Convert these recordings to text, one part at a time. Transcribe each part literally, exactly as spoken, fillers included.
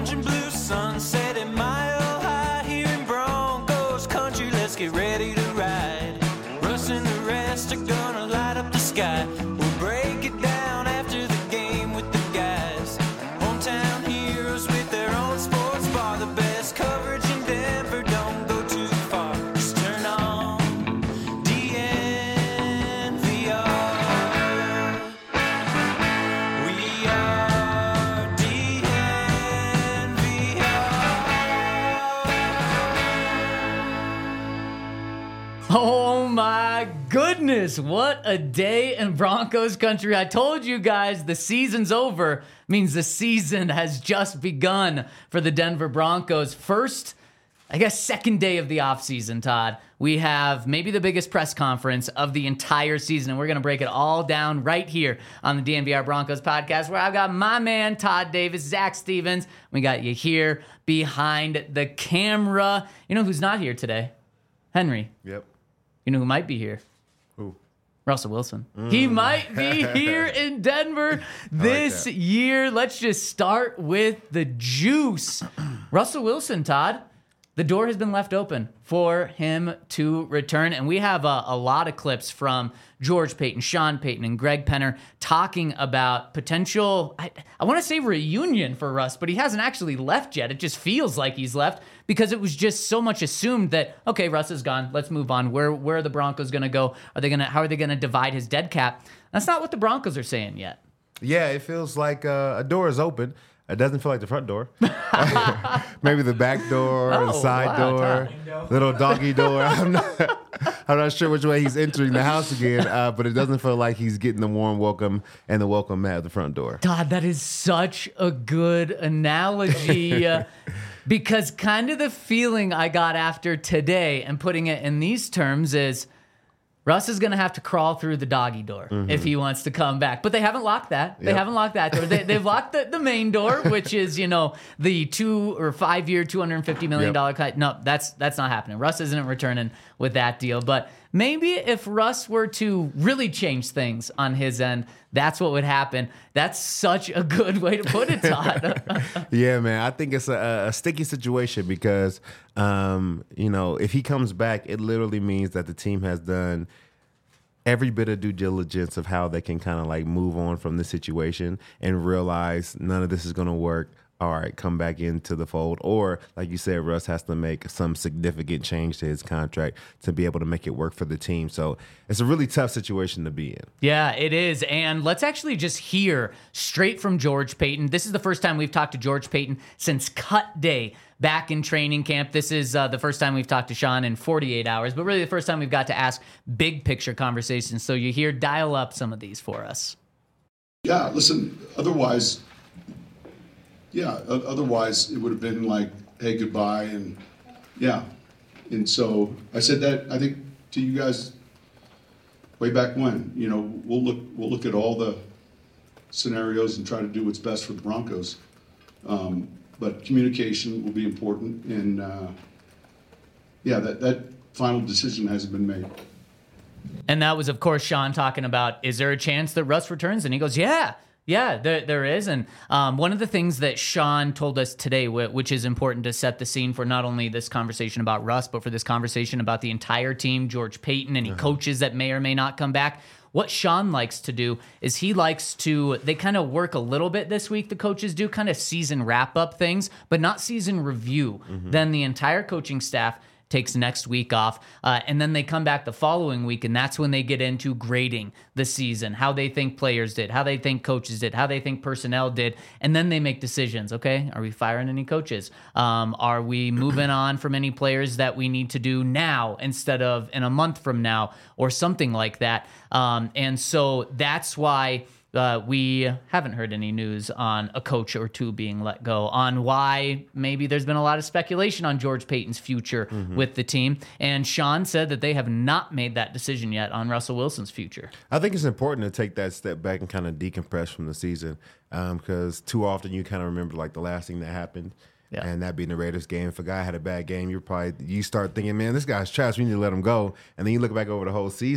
orange and blue sunset at Mile High here in Broncos country. Let's get ready to ride. Russ and the rest are gonna light up the sky. We'll break it down after the game with the guys. Hometown heroes with their own sports bar. The best coverage in Denver, don't go too far. Just turn on D N V R. We are D N V R. Oh my goodness, what a day in Broncos country. I told you guys the season's over means the season has just begun for the Denver Broncos. First, I guess second day of the offseason, Todd. We have maybe the biggest press conference of the entire season, and we're going to break it all down right here on the D N V R Broncos podcast, where I've got my man Todd Davis, Zach Stevens. We got you here behind the camera. You know who's not here today? Henry. Yep. You know who might be here? Who? Russell Wilson. He might be here in Denver this that. year. Let's just start with the juice. Russell Wilson, Todd. The door has been left open for him to return. And we have a, a lot of clips from George Paton, Sean Payton, and Greg Penner talking about potential, I, I want to say reunion for Russ, but he hasn't actually left yet. It just feels like he's left because it was just so much assumed that, okay, Russ is gone. Let's move on. Where, where are the Broncos going to go? Are they going to, how are they going to divide his dead cap? That's not what the Broncos are saying yet. Yeah, it feels like uh, a door is open. It doesn't feel like the front door. Maybe the back door, Oh, the side wow, door, little doggy door. I'm not, I'm not sure which way he's entering the house again, uh, but it doesn't feel like he's getting the warm welcome and the welcome mat at the front door. Todd, that is such a good analogy uh, because kind of the feeling I got after today and putting it in these terms is Russ is going to have to crawl through the doggy door mm-hmm. if he wants to come back. But they haven't locked that. They Yep. haven't locked that door. They, they've locked the, the main door, which is, you know, the two or five year, two hundred fifty million dollars Yep. cut. No, that's that's not happening. Russ isn't returning with that deal. But maybe if Russ were to really change things on his end, that's what would happen. That's such a good way to put it, Todd. Yeah, man. I think it's a, a sticky situation because, um, you know, if he comes back, it literally means that the team has done every bit of due diligence of how they can kind of like move on from this situation and realize none of this is going to work. All right, come back into the fold. Or, like you said, Russ has to make some significant change to his contract to be able to make it work for the team. So it's a really tough situation to be in. Yeah, it is. And let's actually just hear straight from George Paton. This is the first time we've talked to George Paton since cut day back in training camp. This is uh, the first time we've talked to Sean in forty-eight hours, but really the first time we've got to ask big picture conversations. So you hear, dial up some of these for us. Yeah, listen, otherwise, yeah, o- otherwise it would have been like, hey, goodbye, and yeah. And so I said that, I think, to you guys way back when. You know, we'll look we'll look at all the scenarios and try to do what's best for the Broncos. Um, but communication will be important, and uh, yeah, that, that final decision hasn't been made. And that was, of course, Sean talking about, is there a chance that Russ returns? And he goes, yeah, yeah, there, there is. And um, one of the things that Sean told us today, wh- which is important to set the scene for not only this conversation about Russ, but for this conversation about the entire team, George Paton, any uh-huh. coaches that may or may not come back. What Sean likes to do is he likes to, they kind of work a little bit this week, the coaches do, kind of season wrap-up things, but not season review. Mm-hmm. Then the entire coaching staff takes next week off, uh, and then they come back the following week, and that's when they get into grading the season, how they think players did, how they think coaches did, how they think personnel did, and then they make decisions. Okay, are we firing any coaches? Um, are we moving on from any players that we need to do now instead of in a month from now, or something like that? Um, and so that's why Uh, we haven't heard any news on a coach or two being let go, on why maybe there's been a lot of speculation on George Paton's future mm-hmm. with the team. And Sean said that they have not made that decision yet on Russell Wilson's future. I think it's important to take that step back and kind of decompress from the season because um, too often you kind of remember like the last thing that happened. Yeah. And that being the Raiders game. If a guy had a bad game, you're probably you start thinking, man, this guy's trash. We need to let him go. And then you look back over the whole season, right.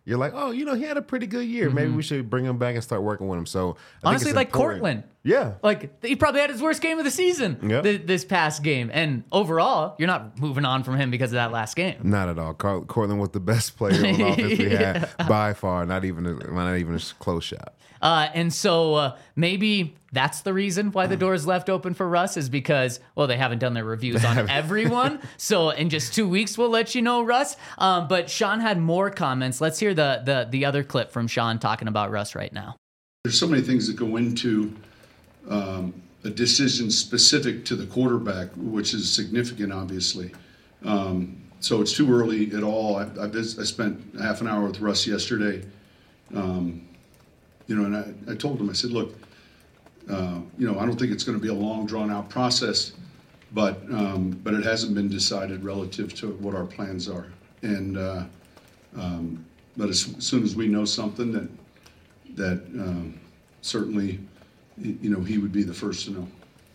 you're like, oh, you know, he had a pretty good year. Maybe we should bring him back and start working with him. So I think Honestly, it's like important. Cortland. Yeah. Like, he probably had his worst game of the season Yep. th- this past game. And overall, you're not moving on from him because of that last game. Not at all. Carl, Cortland was the best player on offense we had by far. Not even a, not even a close shot. Uh, and so uh, maybe that's the reason why the door is left open for Russ is because, well, they haven't done their reviews on everyone. So in just two weeks, we'll let you know, Russ. Um, but Sean had more comments. Let's hear the, the the other clip from Sean talking about Russ right now. There's so many things that go into um, a decision specific to the quarterback, which is significant, obviously. Um, so it's too early at all. I, I, vis- I spent half an hour with Russ yesterday. Um, you know, and I, I told him, I said, look, uh, you know, I don't think it's going to be a long, drawn-out process, but um, but it hasn't been decided relative to what our plans are. And uh, um, but as soon as we know something that that um, certainly, you know, he would be the first to know.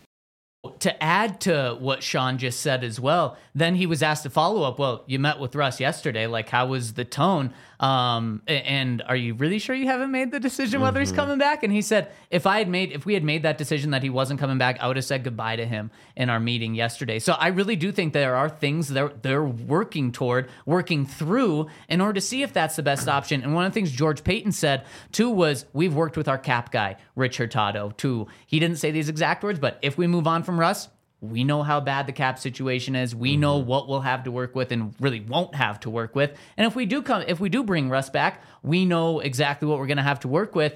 To add to what Sean just said as well, then he was asked to follow up. Well, you met with Russ yesterday. Like, how was the tone? Um, a- and are you really sure you haven't made the decision whether he's coming back? And he said, if I had made, if we had made that decision that he wasn't coming back, I would have said goodbye to him in our meeting yesterday. So I really do think there are things they're they're working toward, working through in order to see if that's the best option. And one of the things George Payton said too was, we've worked with our cap guy, Rich Hurtado, too. He didn't say these exact words, but if we move on from Russ, we know how bad the cap situation is. We know what we'll have to work with and really won't have to work with. And if we do come, if we do bring Russ back, we know exactly what we're going to have to work with.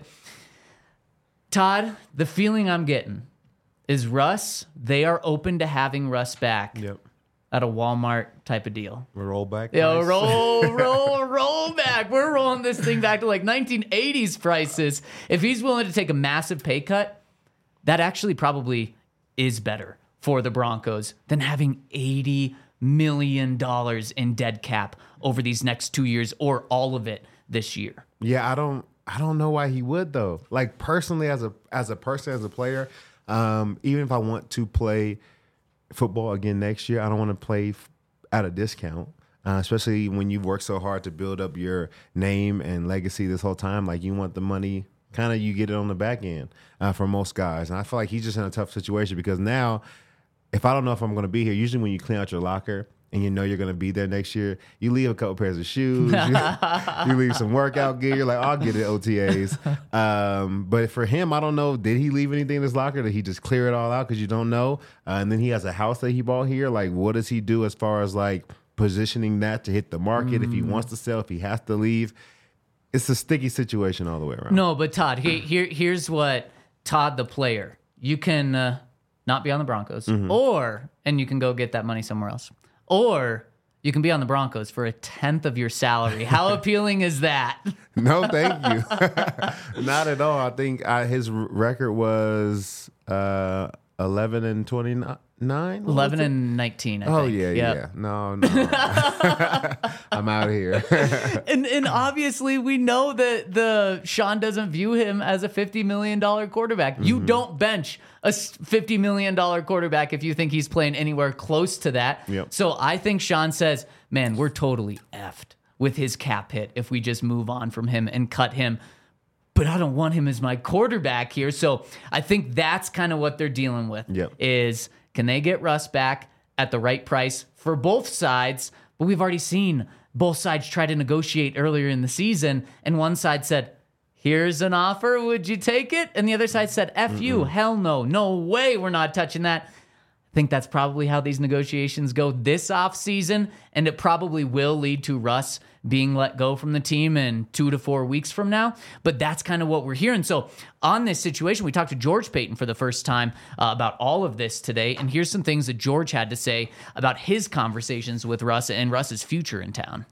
Todd, the feeling I'm getting is Russ, they are open to having Russ back Yep. at a Walmart type of deal. Roll back. Yo, price. roll, roll, roll back. We're rolling this thing back to like nineteen eighties prices. If he's willing to take a massive pay cut, that actually probably is better for the Broncos than having eighty million dollars in dead cap over these next two years or all of it this year. Yeah, I don't I don't know why he would though. Like personally as a as a person, as a player, um, even if I want to play football again next year, I don't want to play f- at a discount. Uh, especially when you've worked so hard to build up your name and legacy this whole time. Like you want the money, kind of you get it on the back end uh, for most guys. And I feel like he's just in a tough situation because now if I don't know if I'm going to be here, usually when you clean out your locker and you know you're going to be there next year, you leave a couple pairs of shoes, you, you leave some workout gear. You're like, I'll get it O T As. Um, but for him, I don't know, did he leave anything in his locker? Did he just clear it all out because you don't know? Uh, and then he has a house that he bought here. Like, what does he do as far as like positioning that to hit the market? Mm. If he wants to sell, if he has to leave, it's a sticky situation all the way around. No, but Todd, he, here, here's what Todd, the player, you can uh, not be on the Broncos, mm-hmm. or, and you can go get that money somewhere else, or you can be on the Broncos for a tenth of your salary. How appealing is that? No, thank you. Not at all. I think I, his record was uh, eleven and twenty-nine. Nine? eleven and nineteen, I oh, think. yeah, yep. yeah. No, no. I'm out of here. and and obviously, we know that the Sean doesn't view him as a fifty million dollars quarterback. Mm-hmm. You don't bench a fifty million dollars quarterback if you think he's playing anywhere close to that. Yep. So I think Sean says, man, we're totally effed with his cap hit if we just move on from him and cut him. But I don't want him as my quarterback here. So I think that's kind of what they're dealing with. Yep. Is can they get Russ back at the right price for both sides? But we've already seen both sides try to negotiate earlier in the season, and one side said, here's an offer, would you take it? And the other side said, F Mm-mm. you, hell no, no way, we're not touching that. I think that's probably how these negotiations go this offseason, and it probably will lead to Russ being let go from the team in two to four weeks from now. But that's kind of what we're hearing. So on this situation, we talked to George Payton for the first time uh, about all of this today, and here's some things that George had to say about his conversations with Russ and Russ's future in town.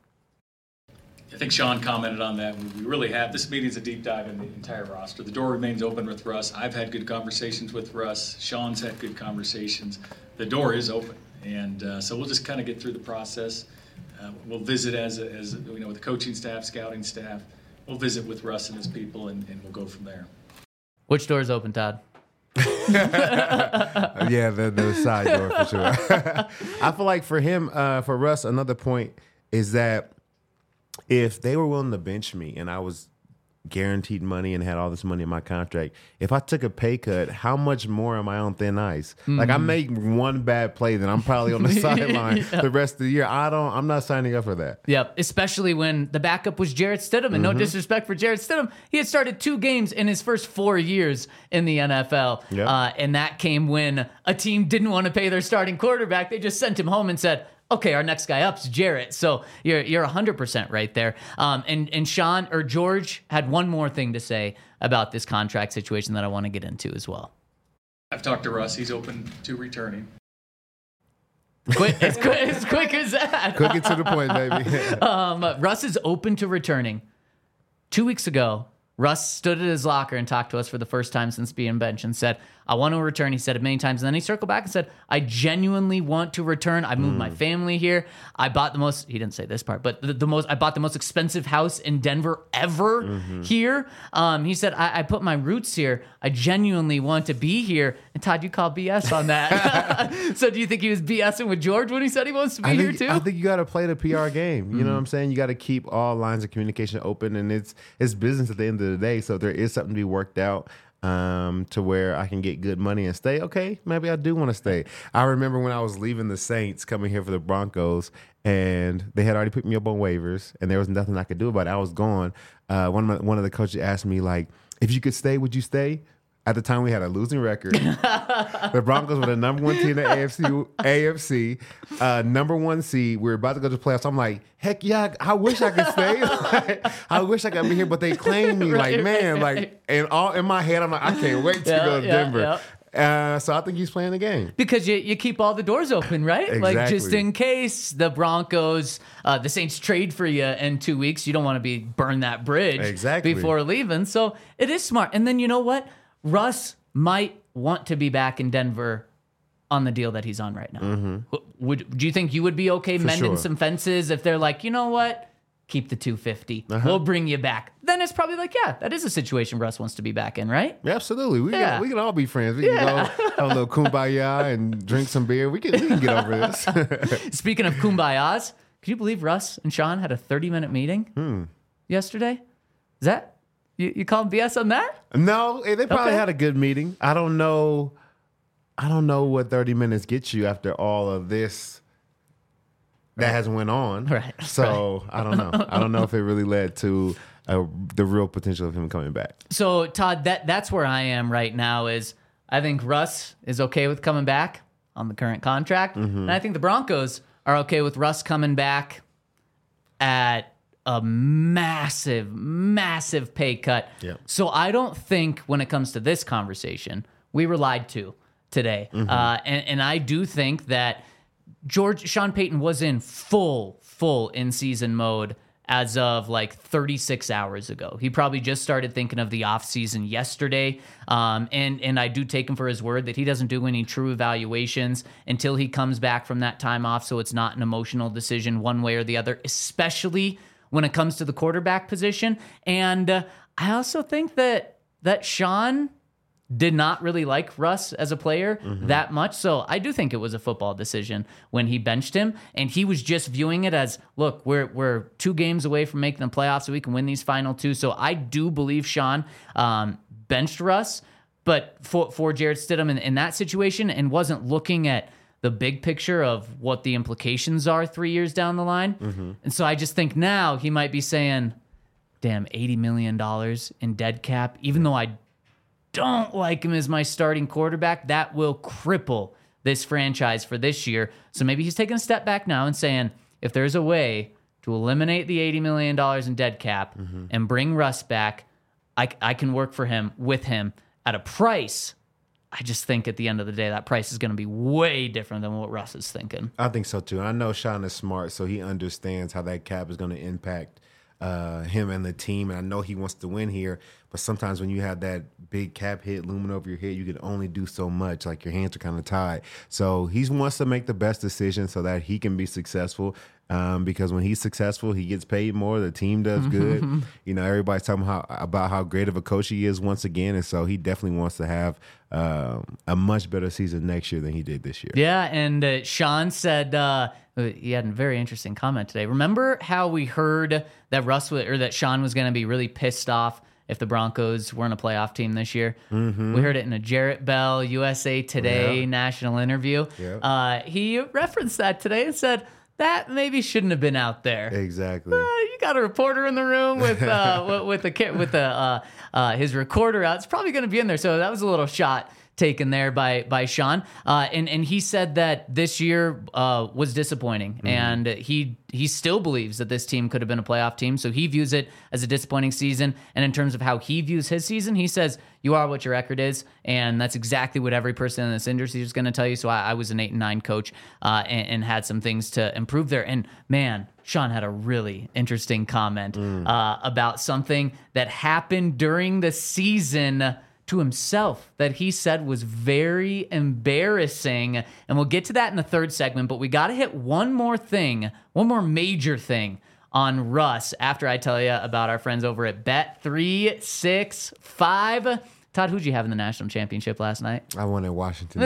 I think Sean commented on that. We really have. This meeting's a deep dive in the entire roster. The door remains open with Russ. I've had good conversations with Russ. Sean's had good conversations. The door is open. And uh, so we'll just kind of get through the process. Uh, we'll visit as, a, as you know, with the coaching staff, scouting staff. We'll visit with Russ and his people, and, and we'll go from there. Which door is open, Todd? Yeah, the, the side door for sure. I feel like for him, uh, for Russ, another point is that if they were willing to bench me and I was guaranteed money and had all this money in my contract, if I took a pay cut, how much more am I on thin ice? Mm-hmm. Like I make one bad play, then I'm probably on the sideline yeah. the rest of the year. I don't. I'm not signing up for that. Yep. Especially when the backup was Jarrett Stidham, and mm-hmm. no disrespect for Jarrett Stidham, he had started two games in his first four years in the N F L, yep. uh, and that came when a team didn't want to pay their starting quarterback. They just sent him home and said, okay, our next guy up's Jarrett. So you're you're one hundred percent right there. Um, and, and Sean or George had one more thing to say about this contract situation that I want to get into as well. I've talked to Russ. He's open to returning. Quick, as, quick, as quick as that. Quick and to the point, baby. um, Russ is open to returning. Two weeks ago, Russ stood at his locker and talked to us for the first time since being benched and said, I want to return. He said it many times. And then he circled back and said, I genuinely want to return. I moved mm. my family here. I bought the most, he didn't say this part, but the, the most, I bought the most expensive house in Denver ever mm-hmm. here. Um, he said, I, I put my roots here. I genuinely want to be here. And Todd, you call B S on that. So do you think he was BSing with George when he said he wants to be I here think, too? I think you got to play the P R game. You mm. know what I'm saying? You got to keep all lines of communication open, and it's, it's business at the end of the day. So if there is something to be worked out, um, to where I can get good money and stay, okay, maybe I do want to stay. I remember when I was leaving the Saints, coming here for the Broncos, and they had already put me up on waivers, and there was nothing I could do about it. I was gone. Uh, one of my, one of the coaches asked me, like, if you could stay, would you stay? At the time, we had a losing record. The Broncos were the number one team in the A F C, A F C uh, number one seed. We were about to go to the playoffs. I'm like, heck yeah, I wish I could stay. Like, I wish I could be here, but they claimed me. Right, like, man, right. like, and all in my head, I'm like, I can't wait to yeah, go to yeah, Denver. Yeah. Uh, so I think he's playing the game. Because you, you keep all the doors open, right? Exactly. Like, just in case the Broncos, uh, the Saints trade for you in two weeks, you don't want to be burn that bridge exactly. before leaving. So it is smart. And then you know what? Russ might want to be back in Denver on the deal that he's on right now. Mm-hmm. Would do you think you would be okay For mending sure. some fences if they're like, you know what? Keep the two hundred fifty. Uh-huh. We'll bring you back. Then it's probably like, yeah, that is a situation Russ wants to be back in, right? Yeah, absolutely. We yeah. can, we can all be friends. We yeah. can go have a little kumbaya and drink some beer. We can, we can get over this. Speaking of kumbayas, can you believe Russ and Sean had a thirty-minute meeting hmm. yesterday? Is that... You, you call B S on that? No, they probably okay. had a good meeting. I don't know. I don't know what thirty minutes gets you after all of this that has went on. Right. So right. I don't know. I don't know if it really led to uh, the real potential of him coming back. So Todd, that that's where I am right now. Is I think Russ is okay with coming back on the current contract, mm-hmm. and I think the Broncos are okay with Russ coming back at a massive, massive pay cut. Yep. So I don't think when it comes to this conversation, we were lied to today. Mm-hmm. Uh, and, and I do think that George Sean Payton was in full, full in-season mode as of like thirty-six hours ago. He probably just started thinking of the offseason yesterday. Um, and, and I do take him for his word that he doesn't do any true evaluations until he comes back from that time off. So it's not an emotional decision one way or the other, especially when it comes to the quarterback position. And uh, I also think that that Sean did not really like Russ as a player mm-hmm. that much. So I do think it was a football decision when he benched him. And he was just viewing it as, look, we're we're two games away from making the playoffs, so we can win these final two. So I do believe Sean um, benched Russ, but for, for Jarrett Stidham in, in that situation, and wasn't looking at the big picture of what the implications are three years down the line. Mm-hmm. And so I just think now he might be saying, damn, eighty million dollars in dead cap, even though I don't like him as my starting quarterback, that will cripple this franchise for this year. So maybe he's taking a step back now and saying, if there's a way to eliminate the eighty million dollars in dead cap mm-hmm. and bring Russ back, I, I can work for him, with him, at a price. I just think at the end of the day, that price is going to be way different than what Russ is thinking. I think so too. I know Sean is smart, so he understands how that cap is going to impact uh, him and the team. And I know he wants to win here, but sometimes when you have that big cap hit looming over your head, you can only do so much. Like your hands are kind of tied. So he wants to make the best decision so that he can be successful. Um, because when he's successful, he gets paid more. The team does good. You know, everybody's talking how, about how great of a coach he is once again. And so he definitely wants to have um, a much better season next year than he did this year. Yeah, and uh, Sean said uh, he had a very interesting comment today. Remember how we heard that Russ w- or that Sean was going to be really pissed off if the Broncos weren't a playoff team this year? Mm-hmm. We heard it in a Jarrett Bell U S A Today yeah. national interview. Yeah. Uh, he referenced that today and said that maybe shouldn't have been out there. Exactly. Uh, you got a reporter in the room with uh, with the with the uh, uh, his recorder out. It's probably going to be in there. So that was a little shot taken there by by Sean, uh, and and he said that this year uh, was disappointing, mm-hmm. and he he still believes that this team could have been a playoff team. So he views it as a disappointing season. And in terms of how he views his season, he says you are what your record is, and that's exactly what every person in this industry is going to tell you. So I, I was an eight and nine coach, uh, and, and had some things to improve there. And man, Sean had a really interesting comment mm. uh, about something that happened during the season to himself that he said was very embarrassing. And we'll get to that in the third segment, but we got to hit one more thing, one more major thing on Russ after I tell you about our friends over at Bet three sixty-five. Todd, who'd you have in the national championship last night? I won in Washington.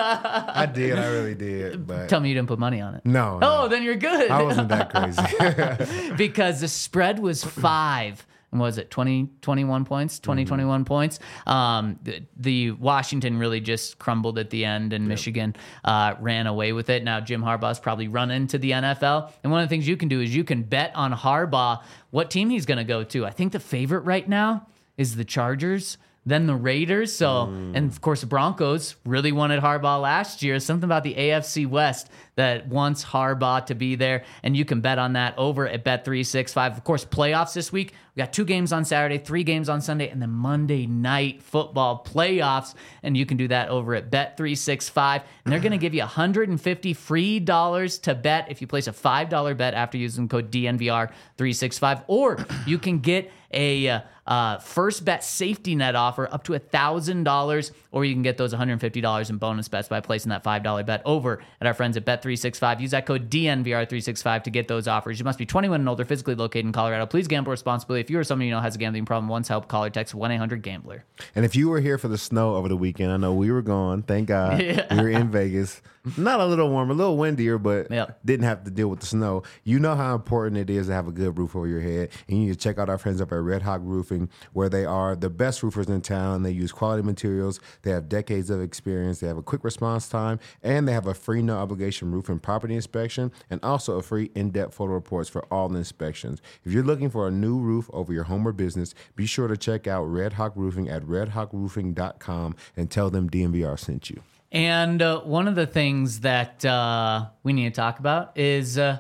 I did. I really did. But tell me you didn't put money on it. No. Oh, no. Then you're good. I wasn't that crazy. Because the spread was five. And was it twenty, twenty-one points, twenty, mm-hmm. twenty-one points? Um, the, the Washington really just crumbled at the end, and yep. Michigan uh, ran away with it. Now Jim Harbaugh's probably run into the N F L. And one of the things you can do is you can bet on Harbaugh what team he's going to go to. I think the favorite right now is the Chargers, then the Raiders. So, mm. and of course, the Broncos really wanted Harbaugh last year. Something about the A F C West that wants Harbaugh to be there, and you can bet on that over at Bet three sixty-five. Of course, playoffs this week. We got two games on Saturday, three games on Sunday, and then Monday night football playoffs, and you can do that over at Bet three sixty-five. And they're going to give you one hundred fifty free dollars to bet if you place a five dollar bet after using code D N V R three sixty-five, or you can get a uh, uh, first bet safety net offer up to one thousand dollars, or you can get those one hundred fifty dollars in bonus bets by placing that five dollar bet over at our friends at Bet three sixty-five. Use that code D N V R three sixty-five to get those offers. You must be twenty-one and older, physically located in Colorado. Please gamble responsibly. If you or someone you know has a gambling problem, once help, call or text one eight hundred gambler. And if you were here for the snow over the weekend, I know we were gone. Thank God. Yeah. We were in Vegas. Not a little warmer, a little windier, but yep. didn't have to deal with the snow. You know how important it is to have a good roof over your head. And you need to check out our friends up at Red Hawk Roofing, where they are the best roofers in town. They use quality materials. They have decades of experience. They have a quick response time, and they have a free no obligation roof and property inspection, and also a free in-depth photo reports for all the inspections. If you're looking for a new roof over your home or business, be sure to check out Red Hawk Roofing at red hawk roofing dot com and tell them D N V R sent you. And uh, one of the things that uh, we need to talk about is, uh,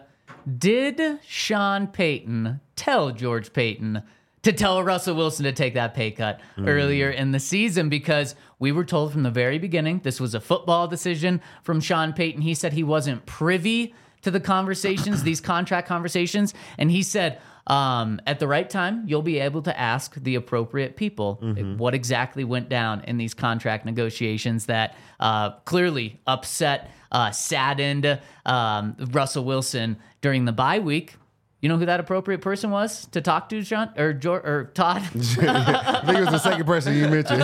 did Sean Payton tell George Paton to tell Russell Wilson to take that pay cut mm. earlier in the season? Because we were told from the very beginning this was a football decision from Sean Payton. He said he wasn't privy to the conversations, these contract conversations, and he said, Um, at the right time, you'll be able to ask the appropriate people mm-hmm. what exactly went down in these contract negotiations that uh, clearly upset, uh, saddened um, Russell Wilson during the bye week. You know who that appropriate person was to talk to, John or George, or Todd? I think it was the second person you mentioned.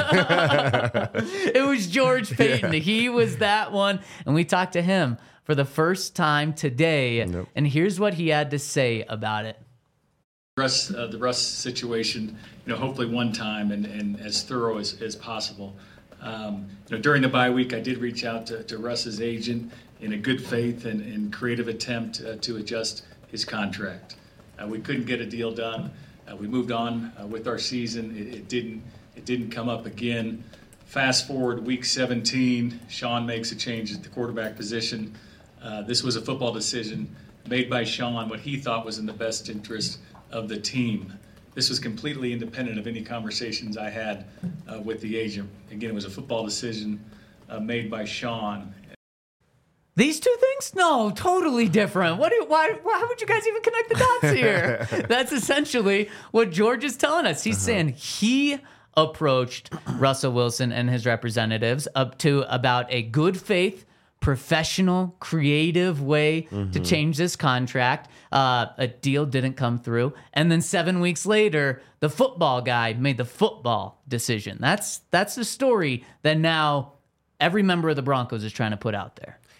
It was George Paton. Yeah. He was that one, and we talked to him for the first time today. Nope. And here's what he had to say about it. Russ, uh, the Russ situation, you know, hopefully one time and, and as thorough as, as possible. Um, you know, during the bye week, I did reach out to, to Russ's agent in a good faith and, and creative attempt uh, to adjust his contract. Uh, we couldn't get a deal done. Uh, we moved on uh, with our season. It, it didn't. It didn't come up again. Fast forward week seventeen, Sean makes a change at the quarterback position. Uh, this was a football decision made by Sean, what he thought was in the best interest of the team. This was completely independent of any conversations I had uh, with the agent. Again, it was a football decision uh, made by Sean. These two things? No, totally different. What? Do, why? Why would you guys even connect the dots here? That's essentially what George is telling us. He's uh-huh. saying he approached Russell Wilson and his representatives up to about a good faith, professional, creative way mm-hmm. to change this contract. Uh, a deal didn't come through. And then seven weeks later, the football guy made the football decision. That's that's the story that now every member of the Broncos is trying to put out there.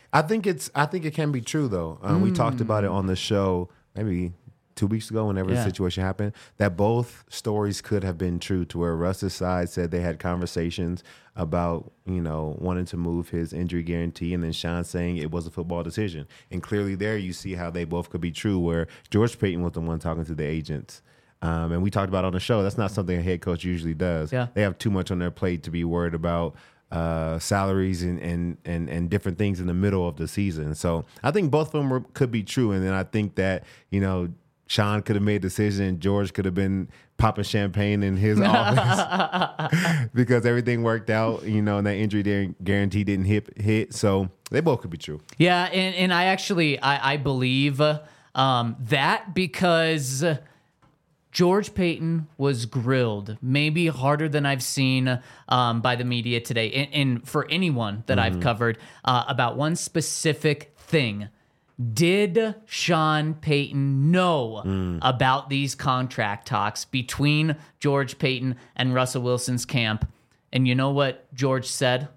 I think it's. I think it can be true though. Um, mm. We talked about it on the show maybe two weeks ago, whenever yeah. the situation happened, that both stories could have been true. To where Russ's side said they had conversations about, you know, wanting to move his injury guarantee, and then Sean saying it was a football decision. And clearly, there you see how they both could be true. Where George Paton was the one talking to the agents. Um, and we talked about on the show, that's not something a head coach usually does. Yeah. They have too much on their plate to be worried about uh, salaries and, and, and, and different things in the middle of the season. So I think both of them were, could be true. And then I think that, you know, Sean could have made a decision and George could have been popping champagne in his office because everything worked out, you know, and that injury guarantee didn't hit, hit. So they both could be true. Yeah, and, and I actually, I, I believe um, that because George Paton was grilled, maybe harder than I've seen um, by the media today, and, and for anyone that mm-hmm. I've covered, uh, about one specific thing. Did Sean Payton know mm. about these contract talks between George Paton and Russell Wilson's camp? And you know what George said?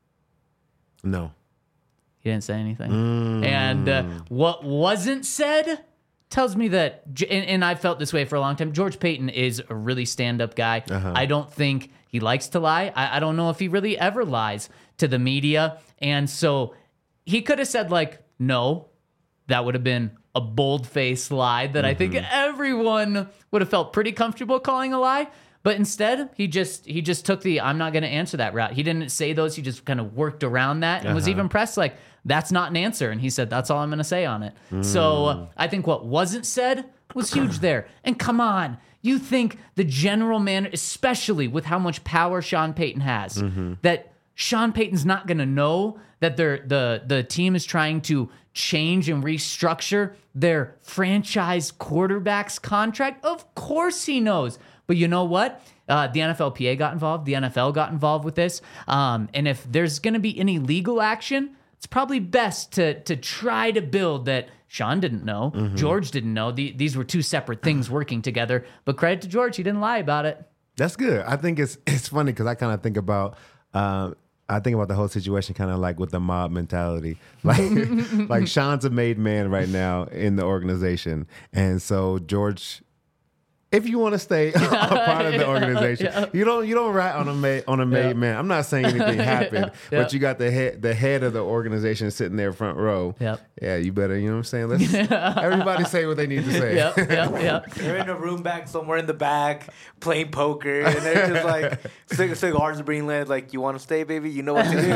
No. He didn't say anything. Mm. And uh, what wasn't said tells me that, and, and I've felt this way for a long time, George Paton is a really stand-up guy. Uh-huh. I don't think he likes to lie. I, I don't know if he really ever lies to the media. And so he could have said, like, no. That would have been a bold-faced lie that mm-hmm. I think everyone would have felt pretty comfortable calling a lie. But instead, he just he just took the I'm not going to answer that route. He didn't say those. He just kind of worked around that and uh-huh. was even pressed like, that's not an answer. And he said, that's all I'm going to say on it. Mm. So uh, I think what wasn't said was huge there. And come on, you think the general manager, especially with how much power Sean Payton has, mm-hmm. that Sean Payton's not going to know that they're, the the team is trying to change and restructure their franchise quarterback's contract? Of course he knows. But you know what? Uh, the N F L P A got involved. The N F L got involved with this. Um, and if there's going to be any legal action, it's probably best to to try to build that Sean didn't know, mm-hmm. George didn't know. The, these were two separate things working together. But credit to George, he didn't lie about it. That's good. I think it's it's funny because I kind of think about um, I think about the whole situation kind of like with the mob mentality. Like like Sean's a made man right now in the organization, and so George, if you want to stay a part of the organization, yeah. you don't you don't rat on a made on a made yeah. man. I'm not saying anything happened, yeah. but you got the head the head of the organization sitting there front row. Yep. Yeah, you better, you know what I'm saying? Let's everybody say what they need to say. Yep, yep, yep. They're in a room back somewhere in the back playing poker, and they're just like cig- cigars are being lit. Like, you want to stay, baby? You know what to do,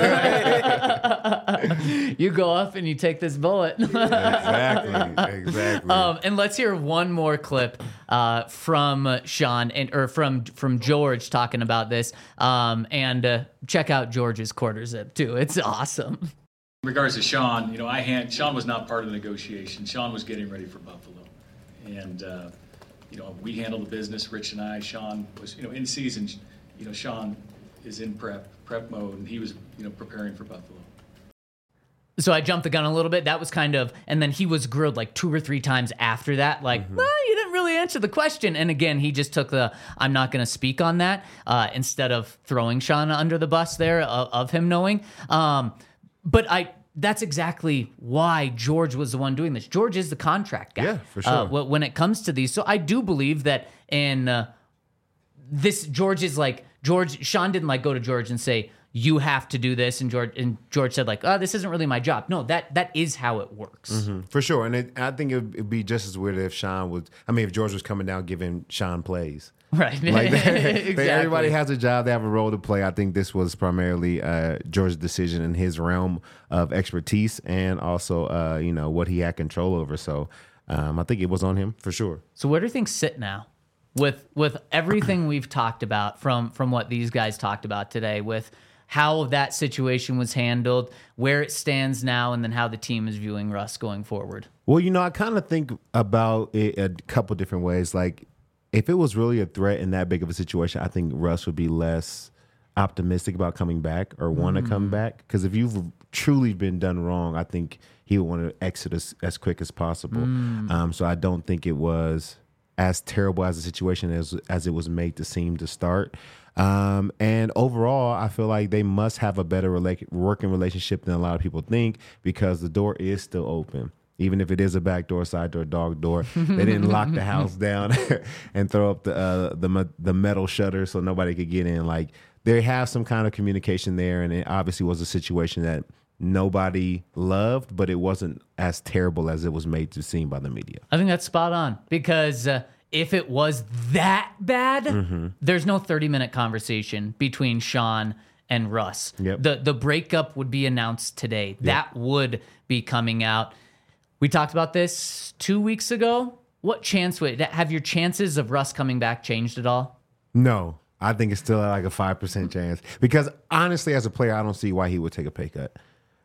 right? You go up and you take this bullet. Exactly, exactly. Um, and let's hear one more clip uh, from Sean and or from from George talking about this. Um, and uh, check out George's quarter zip too. It's awesome. In regards to Sean, you know, I hand Sean was not part of the negotiation. Sean was getting ready for Buffalo, and uh, you know, we handle the business. Rich and I. Sean was, you know, in season. You know, Sean is in prep prep mode, and he was, you know, preparing for Buffalo. So I jumped the gun a little bit. That was kind of, and then he was grilled like two or three times after that. Like, mm-hmm. well, you didn't really answer the question. And again, he just took the, I'm not going to speak on that, uh, instead of throwing Sean under the bus there of, of him knowing. Um, but I, that's exactly why George was the one doing this. George is the contract guy. Yeah, for sure. Uh, when it comes to these. So I do believe that in uh, this, George is like, George, Sean didn't like go to George and say, you have to do this, and George and George said like, "Oh, this isn't really my job." No, that that is how it works, mm-hmm. for sure. And it, I think it would be just as weird if Sean was. I mean, if George was coming down giving Sean plays, right? Like exactly. Everybody has a job; they have a role to play. I think this was primarily uh, George's decision in his realm of expertise, and also, uh, you know, what he had control over. So, um, I think it was on him for sure. So, where do things sit now? With with everything we've talked about from from what these guys talked about today, with how that situation was handled, where it stands now, and then how the team is viewing Russ going forward. Well, you know, I kind of think about it a couple different ways. Like, if it was really a threat in that big of a situation, I think Russ would be less optimistic about coming back or want to mm. come back. Because if you've truly been done wrong, I think he would want to exit as, as quick as possible. Mm. Um, so I don't think it was as terrible as a situation as as it was made to seem to start. Um, and overall, I feel like they must have a better rela- working relationship than a lot of people think because the door is still open. Even if it is a back door, side door, dog door, they didn't lock the house down and throw up the uh, the me- the metal shutter so nobody could get in. Like they have some kind of communication there, and it obviously was a situation that nobody loved, but it wasn't as terrible as it was made to seem by the media. I think that's spot on because uh, if it was that bad, mm-hmm. there's no thirty minute conversation between Sean and Russ. Yep. The the breakup would be announced today. Yep. That would be coming out. We talked about this two weeks ago. What chance would have your chances of Russ coming back changed at all? No, I think it's still like a five percent chance because honestly, as a player, I don't see why he would take a pay cut.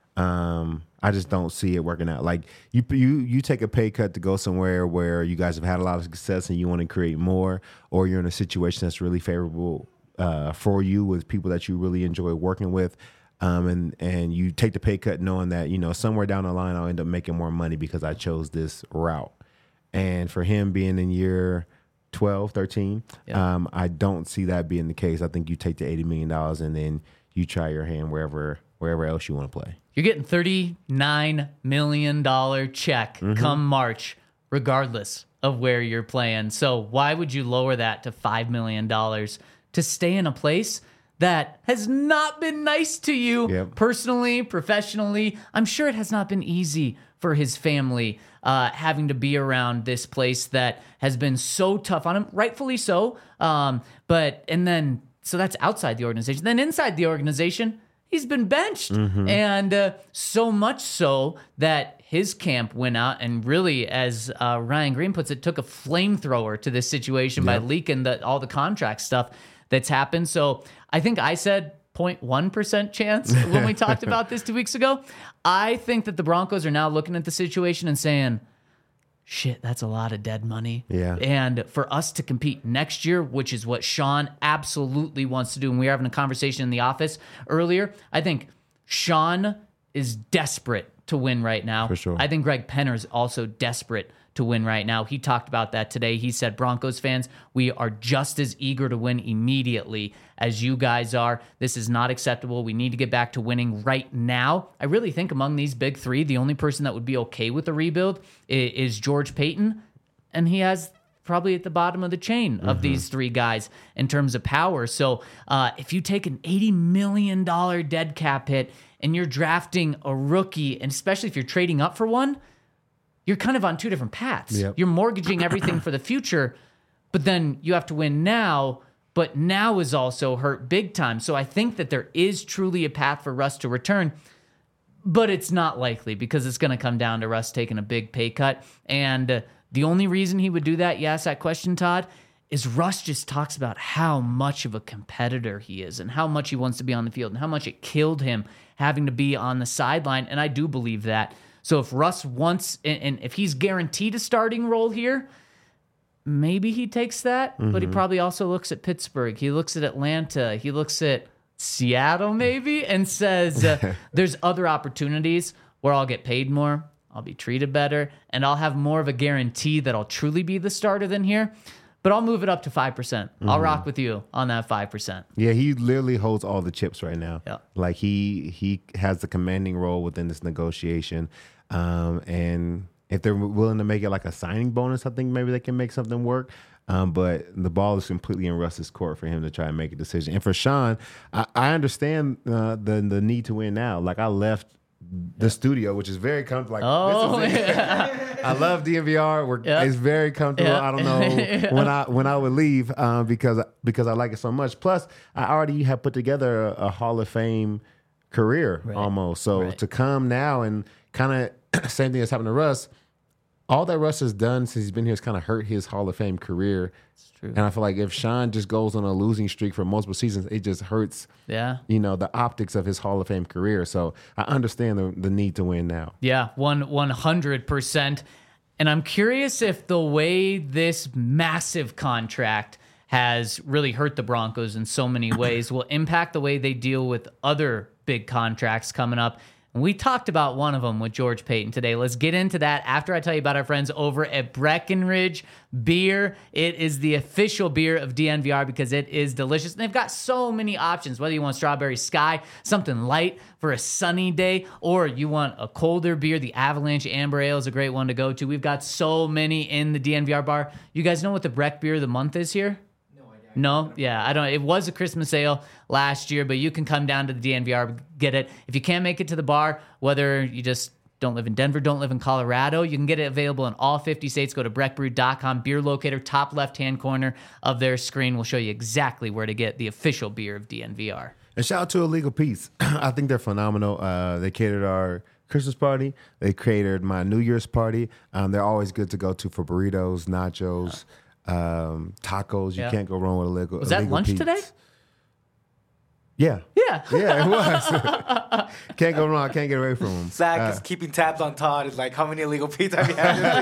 Um, I just don't see it working out. Like you, you, you take a pay cut to go somewhere where you guys have had a lot of success and you want to create more, or you're in a situation that's really favorable uh, for you with people that you really enjoy working with. Um, and, and you take the pay cut knowing that, you know, somewhere down the line, I'll end up making more money because I chose this route. And for him being in year twelve, thirteen, yeah. um, I don't see that being the case. I think you take the eighty million dollars and then you try your hand wherever, wherever else you want to play. You're getting thirty-nine million dollars check mm-hmm. come March, regardless of where you're playing. So why would you lower that to five million dollars to stay in a place that has not been nice to you yep. personally, professionally? I'm sure it has not been easy for his family uh, having to be around this place that has been so tough on him, rightfully so. Um, but, and then, so that's outside the organization. Then inside the organization, he's been benched. Mm-hmm. And uh, so much so that his camp went out and really, as uh, Ryan Green puts it, took a flamethrower to this situation yep. by leaking the, all the contract stuff that's happened. So I think I said zero point one percent chance when we talked about this two weeks ago. I think that the Broncos are now looking at the situation and saying, shit, that's a lot of dead money. Yeah. And for us to compete next year, which is what Sean absolutely wants to do, and we were having a conversation in the office earlier, I think Sean is desperate to win right now. For sure. I think Greg Penner is also desperate to win right now. He talked about that today. He said, Broncos fans, we are just as eager to win immediately as you guys are. This is not acceptable. We need to get back to winning right now. I really think among these big three, the only person that would be okay with the rebuild is George Paton, and he has probably at the bottom of the chain of mm-hmm. these three guys in terms of power. So uh, if you take an eighty million dollars dead cap hit and you're drafting a rookie, and especially if you're trading up for one, you're kind of on two different paths. Yep. You're mortgaging everything for the future, but then you have to win now, but now is also hurt big time. So I think that there is truly a path for Russ to return, but it's not likely because it's going to come down to Russ taking a big pay cut. And uh, the only reason he would do that, you asked that question, Todd, is Russ just talks about how much of a competitor he is and how much he wants to be on the field and how much it killed him having to be on the sideline. And I do believe that. So if Russ wants, and, and if he's guaranteed a starting role here, maybe he takes that, mm-hmm. but he probably also looks at Pittsburgh. He looks at Atlanta. He looks at Seattle maybe and says, uh, there's other opportunities where I'll get paid more, I'll be treated better, and I'll have more of a guarantee that I'll truly be the starter than here. But I'll move it up to five percent. Mm-hmm. I'll rock with you on that five percent. Yeah, he literally holds all the chips right now. Yeah. Like he he has the commanding role within this negotiation. Um, and if they're willing to make it like a signing bonus, I think maybe they can make something work. Um, but the ball is completely in Russ's court for him to try and make a decision. And for Sean, I, I understand uh, the the need to win now. Like I left the yeah. studio, which is very comfortable. Like, oh, this is yeah. I love D N V R. We're, yeah. It's very comfortable. Yeah. I don't know yeah. when I when I would leave um, because because I like it so much. Plus, I already have put together a, a Hall of Fame career right. almost. So right. to come now and kind of same thing that's happened to Russ. All that Russ has done since he's been here has kind of hurt his Hall of Fame career. It's true. And I feel like if Sean just goes on a losing streak for multiple seasons, it just hurts, yeah. you know, the optics of his Hall of Fame career. So I understand the, the need to win now. Yeah, one, one hundred percent. And I'm curious if the way this massive contract has really hurt the Broncos in so many ways will impact the way they deal with other big contracts coming up. And we talked about one of them with George Payton today. Let's get into that after I tell you about our friends over at Breckenridge Beer. It is the official beer of D N V R because it is delicious. And they've got so many options, whether you want Strawberry Sky, something light for a sunny day, or you want a colder beer. The Avalanche Amber Ale is a great one to go to. We've got so many in the D N V R bar. You guys know what the Breck Beer of the Month is here? No, yeah, I don't. It was a Christmas ale last year, but you can come down to the D N V R, get it. If you can't make it to the bar, whether you just don't live in Denver, don't live in Colorado, you can get it available in all fifty states. Go to breck brew dot com, beer locator, top left-hand corner of their screen will show you exactly where to get the official beer of D N V R. And shout out to Illegal Pete's. I think they're phenomenal. Uh, they catered our Christmas party. They catered my New Year's party. Um, they're always good to go to for burritos, nachos. Um, tacos, you Yeah. can't go wrong with illegal. Was that illegal lunch Pete's. today? Yeah, Yeah. yeah, it was. Can't go wrong. Can't get away from them. Zach is keeping tabs on Todd. Is like, how many illegal Pete's have you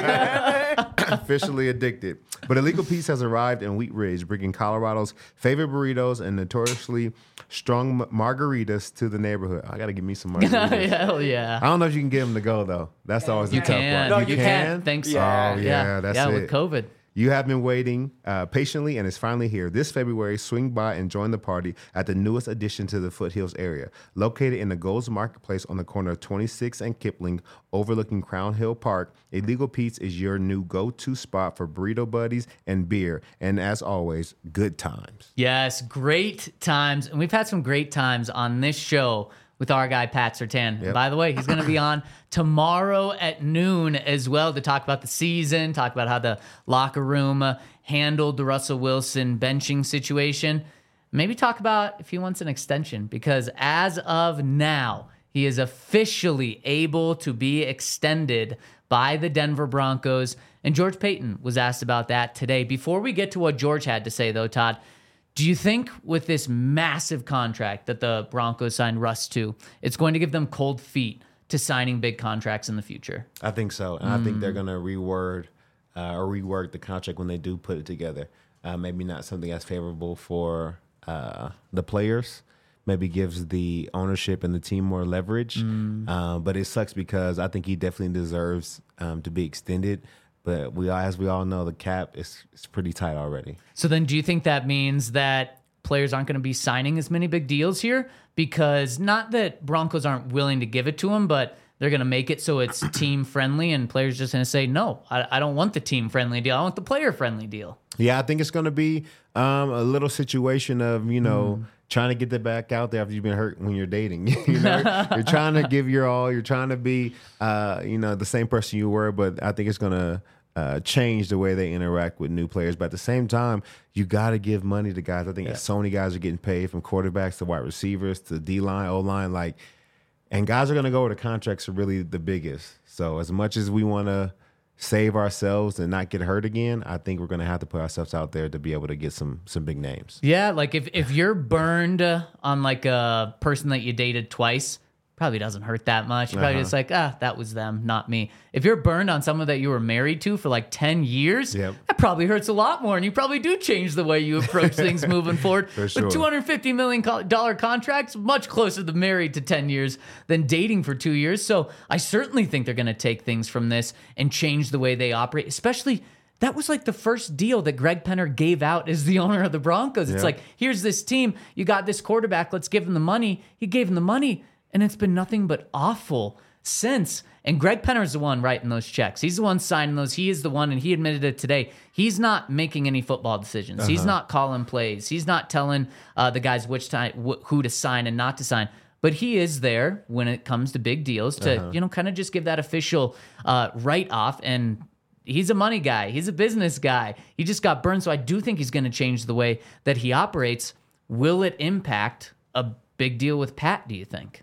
had? Officially addicted. But Illegal Pete's has arrived in Wheat Ridge, bringing Colorado's favorite burritos and notoriously strong margaritas to the neighborhood. I gotta give me some margaritas. Hell yeah. I don't know if you can get them to go though. That's always the You tough can. part. No, you you can. can. Thanks. Yeah. Oh yeah, that's yeah, it. with COVID. You have been waiting uh, patiently, and it's finally here. This February, swing by and join the party at the newest addition to the Foothills area. Located in the Gold's Marketplace on the corner of twenty-sixth and Kipling, overlooking Crown Hill Park, Illegal Pete's is your new go-to spot for burrito buddies and beer. And as always, good times. Yes, great times. And we've had some great times on this show with our guy, Pat Sertan. Yep. By the way, he's going to be on tomorrow at noon as well to talk about the season, talk about how the locker room uh, handled the Russell Wilson benching situation. Maybe talk about if he wants an extension, because as of now, he is officially able to be extended by the Denver Broncos. And George Payton was asked about that today. Before we get to what George had to say, though, Todd, do you think with this massive contract that the Broncos signed Russ to, it's going to give them cold feet to signing big contracts in the future? I think so. And I think they're going to reword uh, or rework the contract when they do put it together. Uh, maybe not something that's favorable for uh, the players. Maybe gives the ownership and the team more leverage. Uh, but it sucks because I think he definitely deserves um, to be extended. But we, as we all know, the cap is, is pretty tight already. So then do you think that means that players aren't going to be signing as many big deals here? Because not that Broncos aren't willing to give it to them, but they're going to make it so it's team friendly and players just going to say, no, I, I don't want the team friendly deal. I want the player friendly deal. Yeah, I think it's going to be um, a little situation of, you know, mm. trying to get that back out there after you've been hurt when you're dating. you know, you're trying to give your all. You're trying to be, uh, you know, the same person you were. But I think it's going to uh, change the way they interact with new players. But at the same time, you got to give money to guys. I think yeah. so many guys are getting paid, from quarterbacks to wide receivers to D-line, O-line. Like, and guys are going to go where the contracts are really the biggest. So as much as we want to save ourselves and not get hurt again, I think we're going to have to put ourselves out there to be able to get some some big names. Yeah, like if, if you're burned on like a person that you dated twice, probably doesn't hurt that much. You're probably uh-huh. just like, ah, that was them, not me. If you're burned on someone that you were married to for like ten years, yep. that probably hurts a lot more. And you probably do change the way you approach things moving forward. For sure. With two hundred fifty million dollars contracts, much closer to married to ten years than dating for two years. So I certainly think they're going to take things from this and change the way they operate, especially that was like the first deal that Greg Penner gave out as the owner of the Broncos. It's yeah. like, here's this team. You got this quarterback. Let's give him the money. He gave him the money. And it's been nothing but awful since. And Greg Penner is the one writing those checks. He's the one signing those. He is the one, and he admitted it today. He's not making any football decisions. Uh-huh. He's not calling plays. He's not telling uh, the guys which time, wh- who to sign and not to sign. But he is there when it comes to big deals to, uh-huh. you know, kind of just give that official uh, write-off. And he's a money guy. He's a business guy. He just got burned. So I do think he's going to change the way that he operates. Will it impact a big deal with Pat, do you think?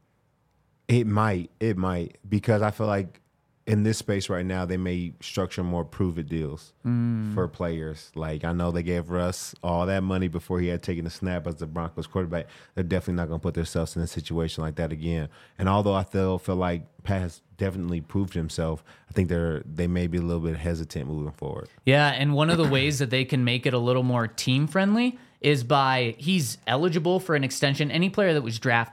It might. It might. Because I feel like in this space right now, they may structure more prove-it deals mm. for players. Like, I know they gave Russ all that money before he had taken a snap as the Broncos quarterback. They're definitely not going to put themselves in a situation like that again. And although I feel, feel like Pat has definitely proved himself, I think they're they may be a little bit hesitant moving forward. Yeah, and one of the ways that they can make it a little more team-friendly is by he's eligible for an extension. Any player that was drafted,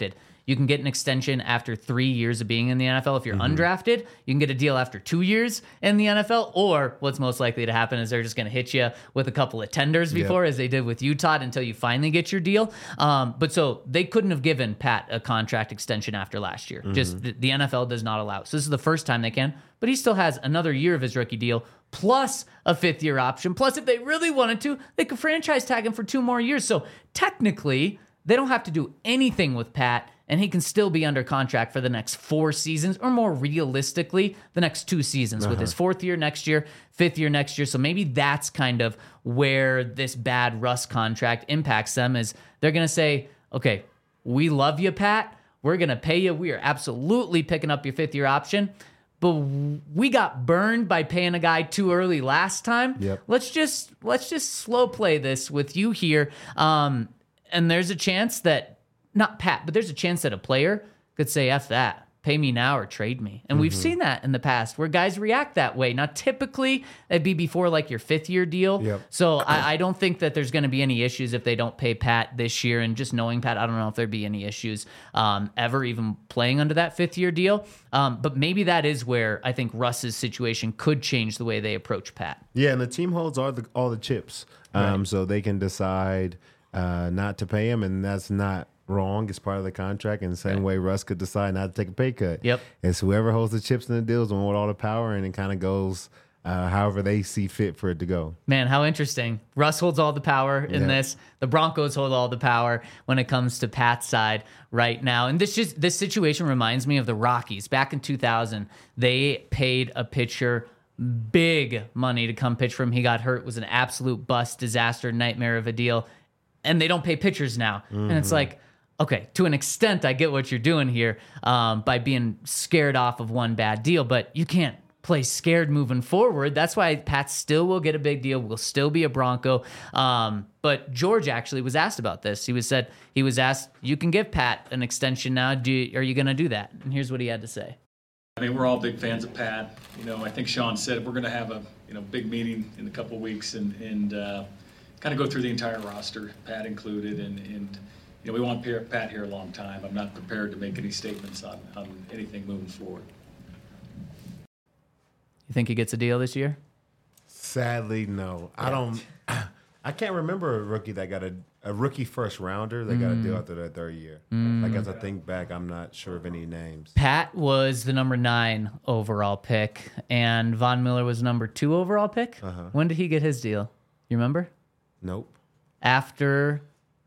You can get an extension after three years of being in the N F L. If you're Mm-hmm. undrafted, you can get a deal after two years in the N F L. Or what's most likely to happen is they're just going to hit you with a couple of tenders before, as they did with Utah, until you finally get your deal. Um, but so they couldn't have given Pat a contract extension after last year. Just the, the N F L does not allow it. So this is the first time they can. But he still has another year of his rookie deal, plus a fifth year option. Plus, if they really wanted to, they could franchise tag him for two more years. So technically, they don't have to do anything with Pat, and he can still be under contract for the next four seasons, or more realistically, the next two seasons, uh-huh. with his fourth year next year, fifth year next year. So maybe that's kind of where this bad Russ contract impacts them, is they're going to say, okay, we love you, Pat. We're going to pay you. We are absolutely picking up your fifth year option. But we got burned by paying a guy too early last time. Yep. Let's just let's just slow play this with you here. Um, and there's a chance that, not Pat, but there's a chance that a player could say, F that. Pay me now or trade me. And mm-hmm. we've seen that in the past where guys react that way. Now, typically, it'd be before like your fifth year deal. Yep. So I, I don't think that there's going to be any issues if they don't pay Pat this year. And just knowing Pat, I don't know if there'd be any issues um, ever even playing under that fifth year deal. Um, but maybe that is where I think Russ's situation could change the way they approach Pat. Yeah, and the team holds all the all the chips, um, right. so they can decide uh, not to pay him, and that's not wrong. It's part of the contract. In the same right. way Russ could decide not to take a pay cut. Yep. It's whoever holds the chips in the deals and with all the power, and it kind of goes uh, however they see fit for it to go. Man, how interesting. Russ holds all the power in yeah. this. The Broncos hold all the power when it comes to Pat's side right now. And this just this situation reminds me of the Rockies. Back in two thousand, they paid a pitcher big money to come pitch for him. He got hurt, was an absolute bust, disaster, nightmare of a deal. And they don't pay pitchers now. Mm-hmm. And it's like, okay, to an extent, I get what you're doing here um, by being scared off of one bad deal, but you can't play scared moving forward. That's why Pat still will get a big deal, will still be a Bronco. Um, but George actually was asked about this. He was said he was asked, "You can give Pat an extension now. Do you, are you going to do that?" And here's what he had to say. I mean, we're all big fans of Pat. You know, I think Sean said we're going to have a you know big meeting in a couple of weeks and and uh, kind of go through the entire roster, Pat included, and and. You know, we want Pat here a long time. I'm not prepared to make any statements on, on anything moving forward. You think he gets a deal this year? Sadly, no. Yeah. I don't. I can't remember a rookie that got a, a rookie first rounder that mm. got a deal after their third year. Mm. Like, as I think back, I'm not sure of any names. Pat was the number nine overall pick, and Von Miller was number two overall pick. Uh-huh. When did he get his deal? You remember? Nope. After...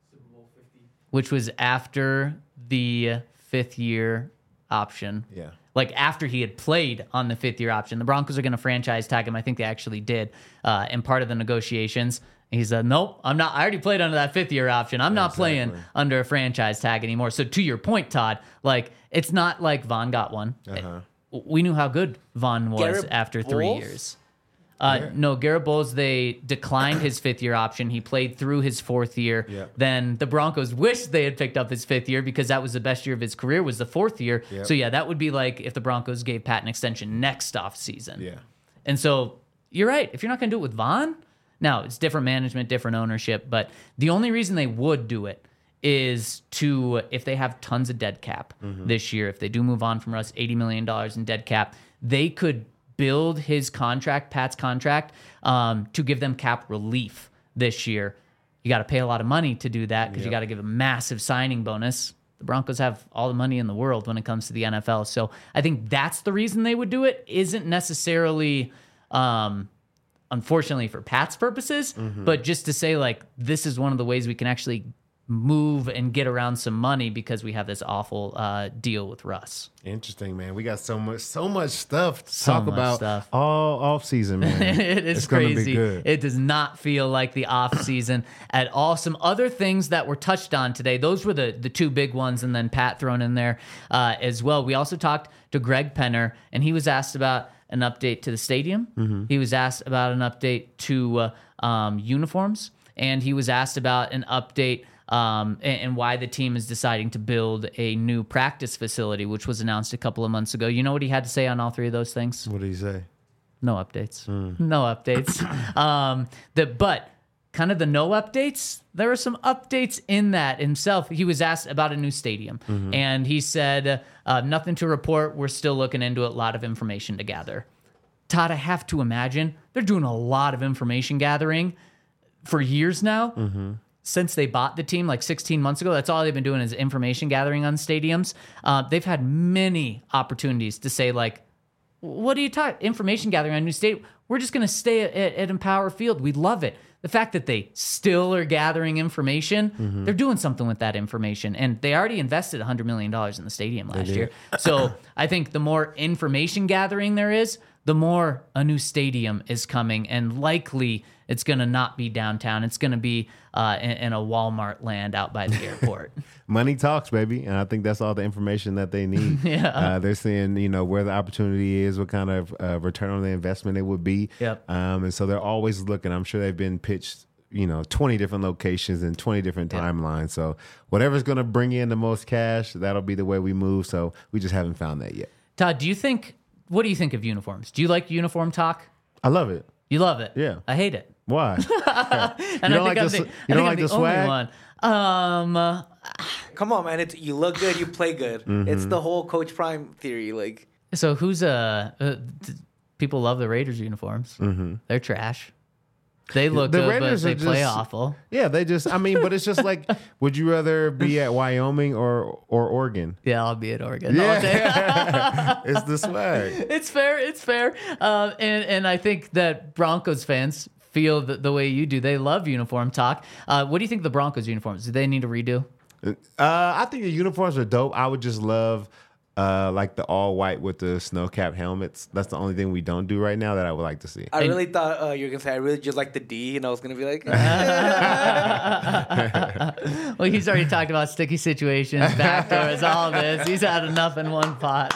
which was after the fifth year option. Yeah. Like after he had played on the fifth year option. The Broncos are going to franchise tag him. I think they actually did uh, in part of the negotiations. He said, nope, I'm not. I already played under that fifth year option. I'm not exactly. playing under a franchise tag anymore. So to your point, Todd, like it's not like Von got one. Uh-huh. It, we knew how good Von was Garrett after three Bowles? years. Uh, yeah. No, Garrett Bowles, they declined his fifth year option. He played through his fourth year. Yeah. Then the Broncos wished they had picked up his fifth year because that was the best year of his career, was the fourth year. Yep. So, yeah, that would be like if the Broncos gave Pat an extension next off season. Yeah. And so you're right. If you're not going to do it with Von, now it's different management, different ownership. But the only reason they would do it is to, if they have tons of dead cap mm-hmm. this year, if they do move on from Russ, eighty million dollars in dead cap, they could build his contract, Pat's contract, um, to give them cap relief this year. You got to pay a lot of money to do that because yep. you got to give a massive signing bonus. The Broncos have all the money in the world when it comes to the N F L. So I think that's the reason they would do it. Isn't necessarily, um, unfortunately for Pat's purposes, mm-hmm. but just to say like, this is one of the ways we can actually move and get around some money because we have this awful uh, deal with Russ. Interesting, man. We got so much, so much stuff to so talk about stuff. all off season, man. it is it's crazy. Gonna be good. It does not feel like the off season at all. Some other things that were touched on today. Those were the the two big ones, and then Pat thrown in there uh, as well. We also talked to Greg Penner, and he was asked about an update to the stadium. Mm-hmm. He was asked about an update to uh, um, uniforms, and he was asked about an update. Um, and, and why the team is deciding to build a new practice facility, which was announced a couple of months ago. You know what he had to say on all three of those things? What did he say? No updates. Mm. No updates. um, the, but kind of the no updates, there were some updates in that himself. He was asked about a new stadium, Mm-hmm. and he said, uh, nothing to report. We're still looking into it. A lot of information to gather. Todd, I have to imagine they're doing a lot of information gathering for years now. Mm-hmm. Since they bought the team like sixteen months ago, that's all they've been doing is information gathering on stadiums. Uh, they've had many opportunities to say, like, what are you talking? Information gathering on a new stadium. We're just going to stay at, at, at Empower Field. We love it. The fact that they still are gathering information, Mm-hmm. they're doing something with that information. And they already invested one hundred million dollars in the stadium last year. So I think the more information gathering there is, the more a new stadium is coming. And likely it's going to not be downtown. It's going to be uh, in, in a Walmart land out by the airport. Money talks, baby, and I think that's all the information that they need. Yeah. uh, they're seeing, you know, where the opportunity is, what kind of uh, return on the investment it would be. Yep. Um, and so they're always looking. I'm sure they've been pitched, you know, twenty different locations and twenty different Yep. timelines. So whatever's going to bring in the most cash, that'll be the way we move. So we just haven't found that yet. Todd, do you think, what do you think of uniforms? Do you like uniform talk? I love it. You love it? Yeah. I hate it. Why? And you I don't think like I'm the, the, you I don't think like I'm the the only swag? one. Um, uh, Come on, man. It's you look good, you play good. Mm-hmm. It's the whole Coach Prime theory. Like, so who's uh, uh t- people love the Raiders uniforms. Mm-hmm. They're trash. They look The good, Raiders but they are play just- awful. Yeah, they just, I mean, but it's just like, would you rather be at Wyoming or, or Oregon? Yeah, I'll be at Oregon. all day. Yeah. It's the swag. It's fair. It's fair. Uh, and and I think that Broncos fans feel the, the way you do. They love uniform talk. Uh, what do you think of the Broncos uniforms? Do they need a redo? Uh, I think the uniforms are dope. I would just love uh, like the all white with the snow cap helmets. That's the only thing we don't do right now that I would like to see. I And- really thought uh, you were gonna say I really just like the D, and I was gonna be like, Well, he's already talked about sticky situations, backdoors, all this. He's had enough in one pot.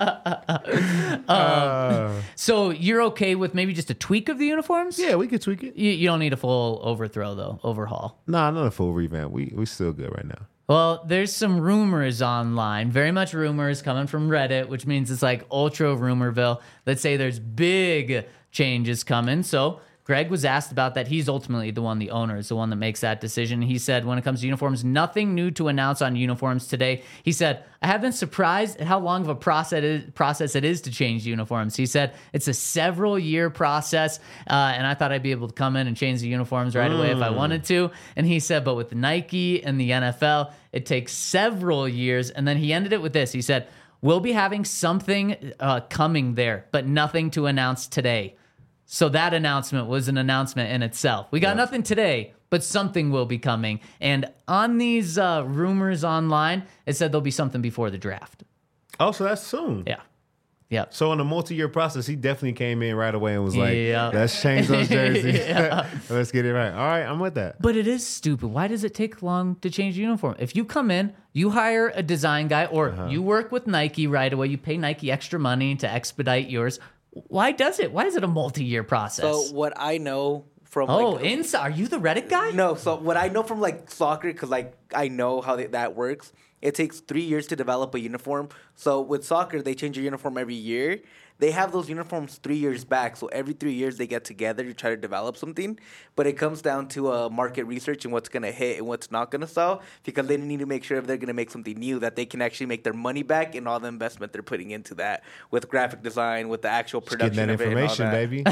um, Uh, so you're okay with maybe just a tweak of the uniforms? yeah, we could tweak it. You, you don't need a full overthrow, though, overhaul. Nah, not a full revamp. We we still good right now. Well, there's some rumors online, very much rumors coming from Reddit, which means it's like ultra rumorville. Let's say there's big changes coming. So Greg was asked about that. He's ultimately the one, the owner is the one that makes that decision. He said, when it comes to uniforms, nothing new to announce on uniforms today. He said, I have been surprised at how long of a process it is, process it is to change uniforms. He said, it's a several year process. Uh, and I thought I'd be able to come in and change the uniforms right away if I wanted to. And he said, but with Nike and the N F L, it takes several years. And then he ended it with this. He said, we'll be having something uh, coming there, but nothing to announce today. So that announcement was an announcement in itself. We got nothing today, but something will be coming. And on these uh, rumors online, it said there'll be something before the draft. Oh, so that's soon. Yeah. Yep. So in a multi-year process, he definitely came in right away and was like, Yeah. let's change those jerseys. Yeah. Let's get it right. All right, I'm with that. But it is stupid. Why does it take long to change a uniform? If you come in, you hire a design guy, or Uh-huh. you work with Nike right away, you pay Nike extra money to expedite yours. Why does it? Why is it a multi-year process? so what I know from oh, like, inside. Are you the Reddit guy? No, so what I know from like soccer, because like I know how they, that works. It takes three years to develop a uniform. So with soccer, they change your uniform every year. They have those uniforms three years back. So every three years they get together to try to develop something. But it comes down to uh, market research and what's going to hit and what's not going to sell. Because they need to make sure if they're going to make something new that they can actually make their money back and all the investment they're putting into that with graphic design, with the actual Getting production that of it and all information, that. baby.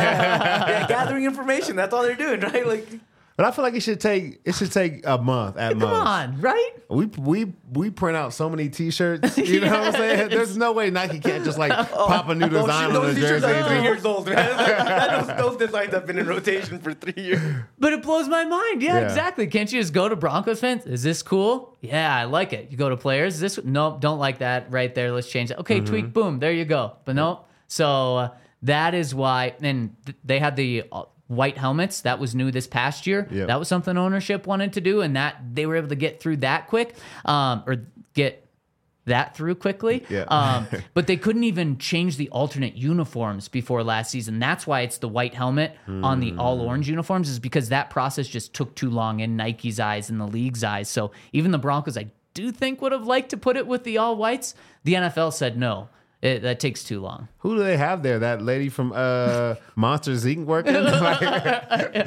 Yeah, gathering information. That's all they're doing, right? Like, But I feel like it should take it should take a month at Come most. on, right? We we we print out so many T-shirts. You know what I'm saying? There's no way Nike can't just like pop a new design on those the t-shirts jersey. are three years old, man. those, those designs have been in rotation for three years. But it blows my mind. Yeah, Yeah. exactly. Can't you just go to Broncos fans? Is this cool? Yeah, I like it. You go to players. Is this nope, don't like that right there. Let's change it. Okay, tweak, boom, there you go. But nope. So uh, that is why. And th- they had the uh, white helmets. That was new this past year. Yep. That was something ownership wanted to do, and that they were able to get through that quick, um, or get that through quickly. Yeah. Um, but they couldn't even change the alternate uniforms before last season. That's why it's the white helmet on the all orange uniforms, is because that process just took too long in Nike's eyes and the league's eyes. So even the Broncos, I do think, would have liked to put it with the all whites. The N F L said no. It, that takes too long. Who do they have there? That lady from uh, Monsters Incorporated working? Like,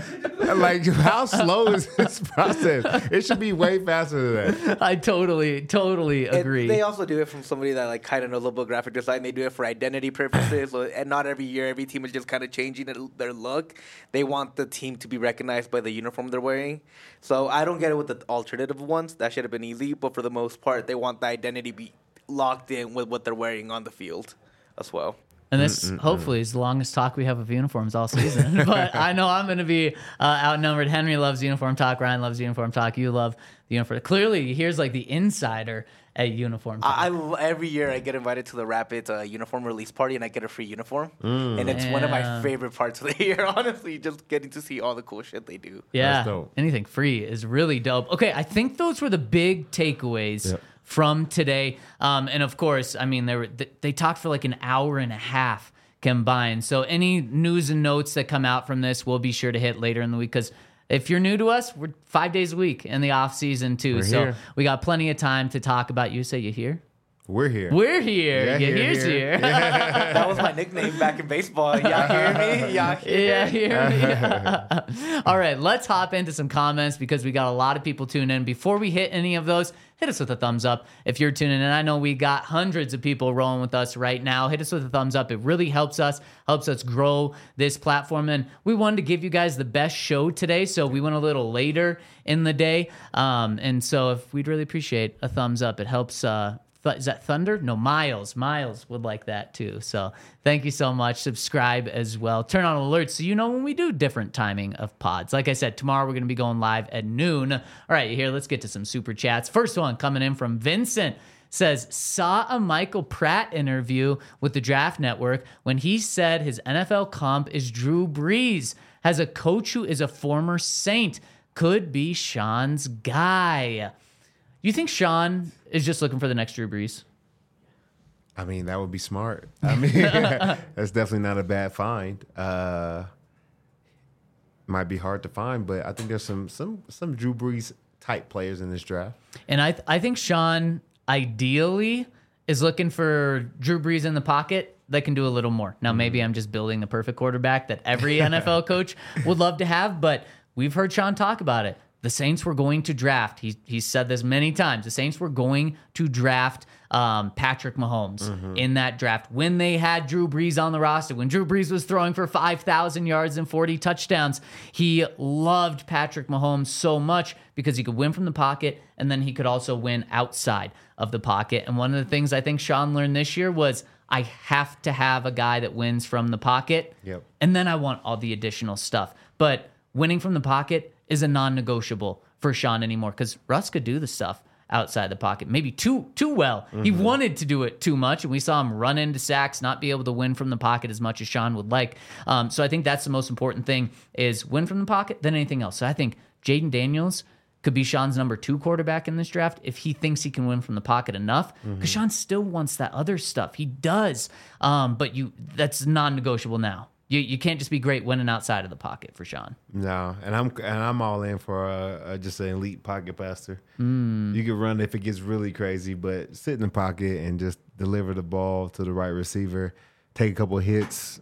Like, how slow is this process? It should be way faster than that. I totally, totally And agree. they also do it from somebody that like kind of knows about graphic design. They do it for identity purposes, so, and not every year every team is just kind of changing their, their look. They want the team to be recognized by the uniform they're wearing. So I don't get it with the alternative ones. That should have been easy, but for the most part, they want the identity be locked in with what they're wearing on the field as well. And this, hopefully, is the longest talk we have of uniforms all season. But I know I'm going to be uh, outnumbered. Henry loves uniform talk. Ryan loves uniform talk. You love the uniform. Clearly, here's like the insider at uniform talk. I, I every year I get invited to the Rapids uh, uniform release party and I get a free uniform, and it's one of my Yeah. favorite parts of the year. Honestly, just getting to see all the cool shit they do. yeah, That's dope. anything free is really dope. Okay, I think those were the big takeaways. Yep. From today. Um, and of course, I mean, they, were, they, they talked for like an hour and a half combined. So any news and notes that come out from this, we'll be sure to hit later in the week. Because if you're new to us, we're five days a week in the off season too. We're so here. we got plenty of time to talk about. You say you here? We're here. We're here. Yeah, Yeah, here, here's here. here. That was my nickname back in baseball. Y'all hear me? Y'all hear Yeah, me? here we All right, let's hop into some comments because we got a lot of people tuning in. Before we hit any of those, hit us with a thumbs up if you're tuning in. I know we got hundreds of people rolling with us right now. Hit us with a thumbs up. It really helps us, helps us grow this platform. And we wanted to give you guys the best show today, so we went a little later in the day. Um, and so if we'd really appreciate a thumbs up, it helps. Uh, Th- is that Thunder? No, Miles. Miles would like that too. So thank you so much. Subscribe as well. Turn on alerts so you know when we do different timing of pods. Like I said, tomorrow we're going to be going live at noon. All right, here, let's get to some super chats. First one coming in from Vincent. Says, saw a Michael Pratt interview with the Draft Network when he said his N F L comp is Drew Brees. Has a coach who is a former Saint. Could be Sean's guy. You think Sean is just looking for the next Drew Brees? I mean, that would be smart. I mean, that's definitely not a bad find. Uh, might be hard to find, but I think there's some some some Drew Brees type players in this draft. And I th- I think Sean ideally is looking for Drew Brees in the pocket that can do a little more. Now, maybe I'm just building the perfect quarterback that every N F L coach would love to have, but we've heard Sean talk about it. The Saints were going to draft. He he's said this many times. The Saints were going to draft um, Patrick Mahomes Mm-hmm. in that draft when they had Drew Brees on the roster. When Drew Brees was throwing for five thousand yards and forty touchdowns, he loved Patrick Mahomes so much because he could win from the pocket and then he could also win outside of the pocket. And one of the things I think Sean learned this year was I have to have a guy that wins from the pocket. Yep. And then I want all the additional stuff. But winning from the pocket is a non-negotiable for Sean anymore because Russ could do the stuff outside the pocket, maybe too too well. Mm-hmm. He wanted to do it too much, and we saw him run into sacks, not be able to win from the pocket as much as Sean would like. Um, so I think that's the most important thing is win from the pocket, then anything else. So I think Jaden Daniels could be Sean's number two quarterback in this draft if he thinks he can win from the pocket enough. Because Mm-hmm. Sean still wants that other stuff. He does, um, but you that's non-negotiable now. You you can't just be great winning outside of the pocket for Sean. No, and I'm and I'm all in for uh, uh, just an elite pocket passer. Mm. You can run if it gets really crazy, but sit in the pocket and just deliver the ball to the right receiver, take a couple of hits,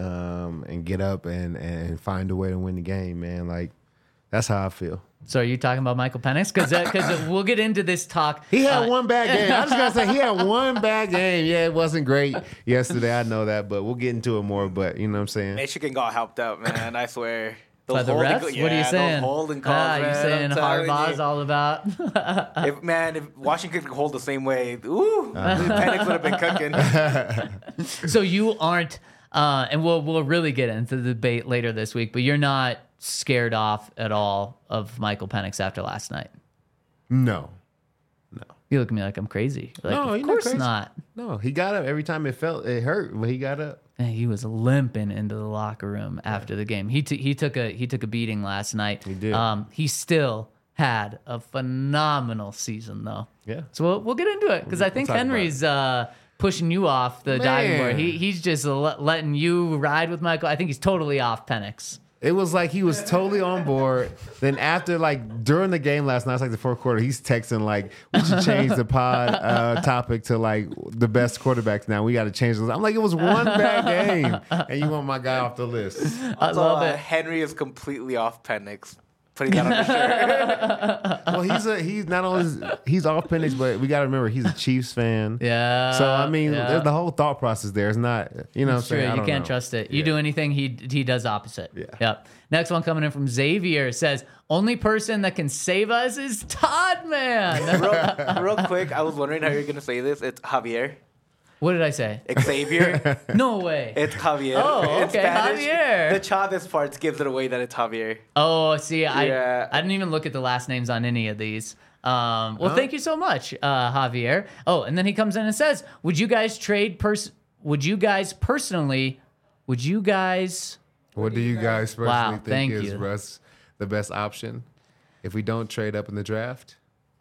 um, and get up and and find a way to win the game. Man, like that's how I feel. So are you talking about Michael Penix? Because because we'll get into this talk. He had Uh, one bad game. I was gonna say he had one bad game. Yeah, it wasn't great yesterday. I know that, but we'll get into it more. But you know what I'm saying? Michigan got helped up, man. I swear. By the holding refs? go- what are you yeah, saying? Those holding calls, ah, you man, saying I'm telling Harbaugh's you. all about? If man, if Washington could hold the same way, ooh, Penix would have been cooking. So you aren't, uh, and we'll we'll really get into the debate later this week. But you're not scared off at all of Michael Penix after last night. No, You look at me like I'm crazy. Like, No, of you're not course crazy. not. no. He got up every time it felt it hurt, but he got up. Man, he was limping into the locker room after the game. He t- he took a he took a beating last night. He did. Um, he still had a phenomenal season though. Yeah. So we'll, we'll get into it because I think talk about Henry's uh, pushing you off the diving board. Man. He he's just le- letting you ride with Michael. I think he's totally off Penix. It was like he was totally on board. Then after, like, during the game last night, it's like the fourth quarter, he's texting, like, we should change the pod uh, topic to, like, the best quarterbacks now. We got to change this. I'm like, it was one bad game, and you want my guy off the list. I So, love uh, it. Henry is completely off Penix. Putting that on the shirt. Well, he's a he's not only he's off Penix, but we got to remember he's a Chiefs fan. Yeah. So I mean, yeah. there's the whole thought process there. It's not, you know, It's what I'm true. saying? I You don't can't know. trust it. You Yeah. do anything, he he does opposite. Yeah. Yep. Next one coming in from Xavier says, only person that can save us is Todd Man. real, real quick, I was wondering how you're gonna say this. It's Javier. What did I say? Xavier. No way. It's Javier. Oh, In okay, Spanish, Javier. The Chavez parts gives it away that it's Javier. Oh, see, I Yeah. I didn't even look at the last names on any of these. Um, well, thank you so much, uh, Javier. Oh, and then he comes in and says, "Would you guys trade pers? Would you guys personally? Would you guys? What do you guys personally Wow, think thank is you. Russ the best option if we don't trade up in the draft?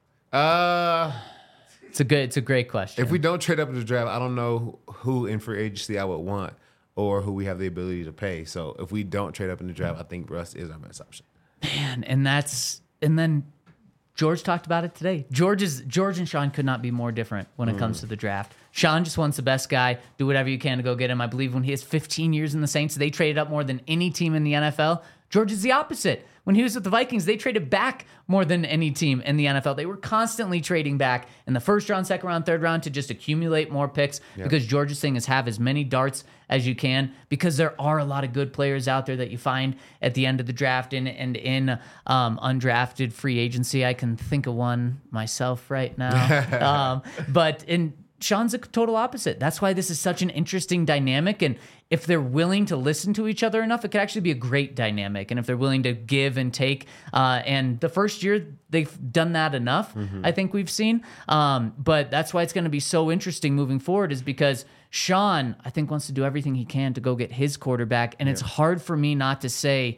Uh, It's a good. It's a great question. if we don't trade up in the draft, I don't know who in free agency I would want or who we have the ability to pay. So if we don't trade up in the draft, I think Russ is our best option. Man, and that's and then George talked about it today. George is George and Sean could not be more different when it comes to the draft. Sean just wants the best guy. Do whatever you can to go get him. I believe when he has fifteen years in the Saints, they traded up more than any team in the N F L. George is the opposite. When he was with the Vikings, they traded back more than any team in the N F L. They were constantly trading back in the first round, second round, third round to just accumulate more picks because George's thing is have as many darts as you can because there are a lot of good players out there that you find at the end of the draft and, and in um, undrafted free agency. I can think of one myself right now. um, but in Sean's a total opposite. That's why this is such an interesting dynamic. And if they're willing to listen to each other enough, it could actually be a great dynamic. And if they're willing to give and take, uh, and the first year they've done that enough, I think we've seen. Um, but that's why it's going to be so interesting moving forward is because Sean, I think, wants to do everything he can to go get his quarterback. And it's hard for me not to say,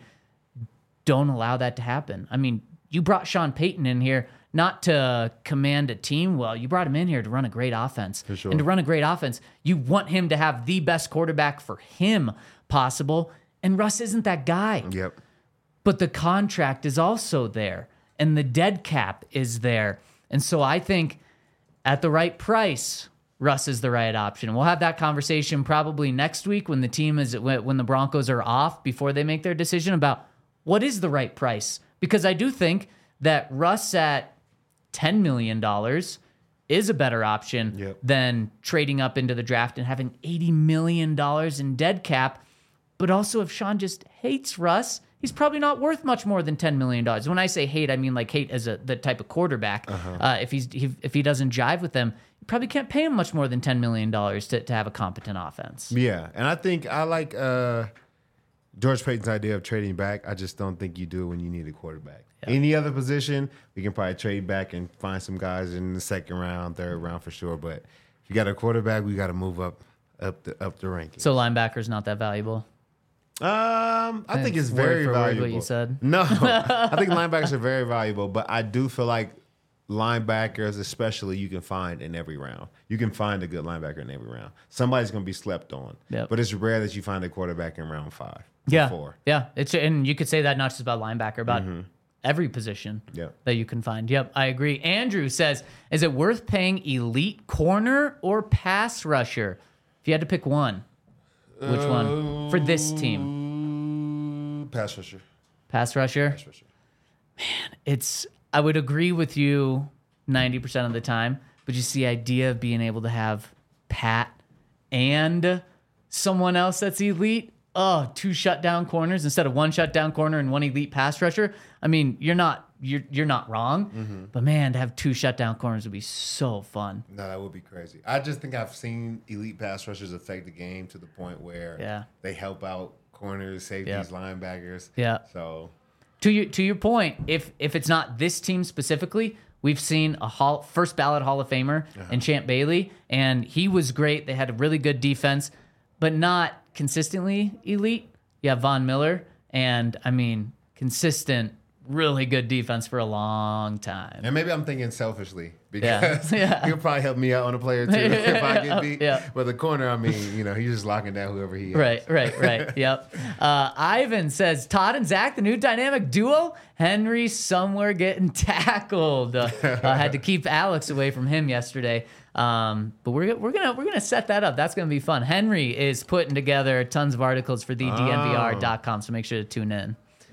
don't allow that to happen. I mean, you brought Sean Payton in here not to command a team well. You brought him in here to run a great offense. For sure. And to run a great offense, you want him to have the best quarterback for him possible. And Russ isn't that guy. Yep. But the contract is also there. And the dead cap is there. And so I think at the right price, Russ is the right option. We'll have that conversation probably next week when the team is when the Broncos are off before they make their decision about what is the right price. Because I do think that Russ at ten million dollars is a better option Yep. than trading up into the draft and having eighty million dollars in dead cap. But also, if Sean just hates Russ, he's probably not worth much more than ten million dollars. When I say hate, I mean like hate as a the type of quarterback. Uh-huh. Uh, if he's he, if he doesn't jive with them, you probably can't pay him much more than ten million dollars to, to have a competent offense. Yeah, and I think I like uh, George Payton's idea of trading back. I just don't think you do it when you need a quarterback. Any other position, we can probably trade back and find some guys in the second round, third round for sure. But if you got a quarterback, we got to move up, up the up the rankings. So linebacker's not that valuable. Um, I think it's Word very for word what valuable. you said. No, I think linebackers are very valuable, but I do feel like linebackers, especially, you can find in every round. You can find a good linebacker in every round. Somebody's going to be slept on, Yep. but it's rare that you find a quarterback in round five. or Yeah, four. yeah. It's and you could say that not just about linebacker, about every position Yep. that you can find. Yep, I agree. Andrew says, "Is it worth paying elite corner or pass rusher? If you had to pick one, which one for this team? Pass rusher. Pass rusher. Pass rusher. It's. I would agree with you ninety percent of the time, but just the idea of being able to have Pat and someone else that's elite. Oh, two shutdown corners instead of one shutdown corner and one elite pass rusher. I mean, you're not you're you're not wrong, but man, to have two shutdown corners would be so fun. No, that would be crazy. I just think I've seen elite pass rushers affect the game to the point where Yeah. they help out corners, safeties, linebackers. Yeah. So To your to your point, if if it's not this team specifically, we've seen a hall, first ballot Hall of Famer in Champ Bailey, and he was great. They had a really good defense, but not consistently elite. You have Von Miller, and I mean consistent really good defense for a long time. And maybe I'm thinking selfishly because Yeah. Yeah. he'll probably help me out on a player too if I get beat. Yeah. But the corner, I mean, you know, he's just locking down whoever he is. Right, right, right. Yep. Uh, Ivan says Todd and Zach, the new dynamic duo. Henry somewhere getting tackled. Uh, uh, had to keep Alex away from him yesterday. Um, but we're we're gonna we're gonna set that up. That's gonna be fun. Henry is putting together tons of articles for the D N V R dot com, so make sure to tune in.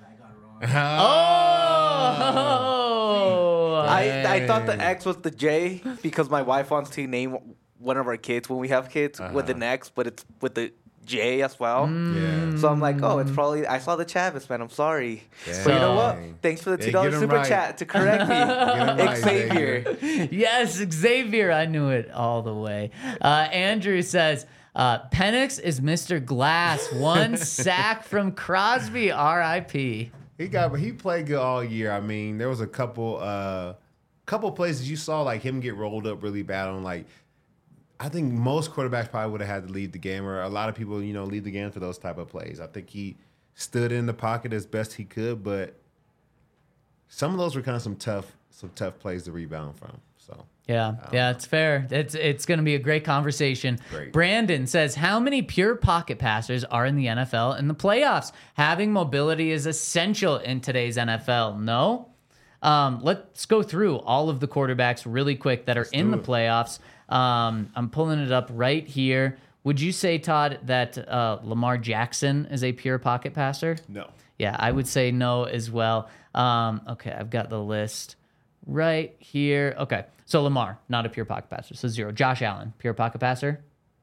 Oh, I, I thought the X was the J because my wife wants to name one of our kids when we have kids with an X, but it's with the J as well. Yeah. So I'm like, oh, it's probably, I saw the Chavis, man. I'm sorry. Yeah. But you know what? Dang. Thanks for the Yeah, two dollars get 'em super right. chat to correct me. Get 'em right, Xavier. yes, Xavier. I knew it all the way. Uh, Andrew says, uh, Penix is Mister Glass. One sack from Crosby. R I P He got he played good all year. I mean, there was a couple uh couple places you saw like him get rolled up really bad on like I think most quarterbacks probably would have had to leave the game, or a lot of people, you know, leave the game for those type of plays. I think he stood in the pocket as best he could, but some of those were kind of some tough some tough plays to rebound from. So Yeah, yeah, it's fair. It's it's going to be a great conversation. Great. Brandon says, how many pure pocket passers are in the N F L in the playoffs? Having mobility is essential in today's N F L. No? Um, let's go through all of the quarterbacks really quick that are in the it. playoffs. Um, I'm pulling it up right here. Would you say, Todd, that uh, Lamar Jackson is a pure pocket passer? no. Yeah, I would say no as well. Um, okay, I've got the list right here. Okay, so Lamar, not a pure pocket passer, so zero. Josh Allen, pure pocket passer.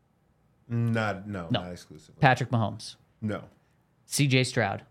Not no, No. not exclusively. Patrick Mahomes, No. C J Stroud,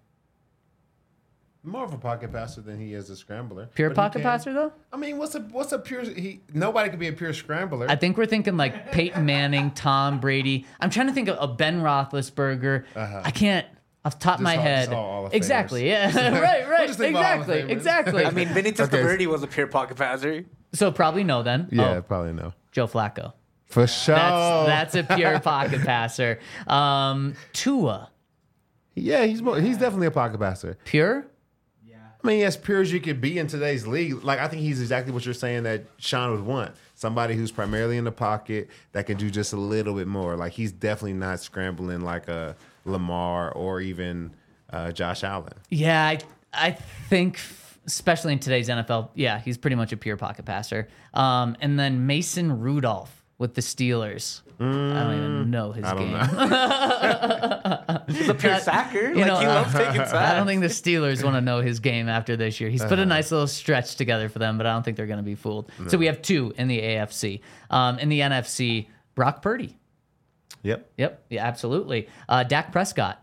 More of a pocket passer than he is a scrambler. pure But he pocket can- passer though. I mean, what's a what's a pure he nobody could be a pure scrambler. I think we're thinking like Peyton Manning, Tom Brady. I'm trying to think of a Ben Roethlisberger. Uh-huh. I can't off the top of Just my all- head. just all Hall of Exactly. Famers. Yeah. right. Right. just think about Hall of Exactly. Famers. Exactly. I mean, Vinny Okay. Testaverde was a pure pocket passer. so probably no then. yeah, Oh, probably no. Joe Flacco. For sure. That's that's a pure pocket passer. Um, Tua, yeah, he's more, he's definitely a pocket passer. pure. I mean, as pure as you could be in today's league, like I think he's exactly what you're saying that Sean would want. Somebody who's primarily in the pocket that can do just a little bit more. Like he's definitely not scrambling like a Lamar or even uh, Josh Allen. Yeah, I I think f- especially in today's N F L, yeah, he's pretty much a pure pocket passer. Um, and then Mason Rudolph with the Steelers. I don't even know his I don't game. know. He's a pure sacker. You like, know, he loves taking sacks. I don't think the Steelers want to know his game after this year. He's put a nice little stretch together for them, but I don't think they're going to be fooled. So we have two in the A F C. Um, in the N F C, Brock Purdy. Yep. Yep, yeah, absolutely. Uh, Dak Prescott.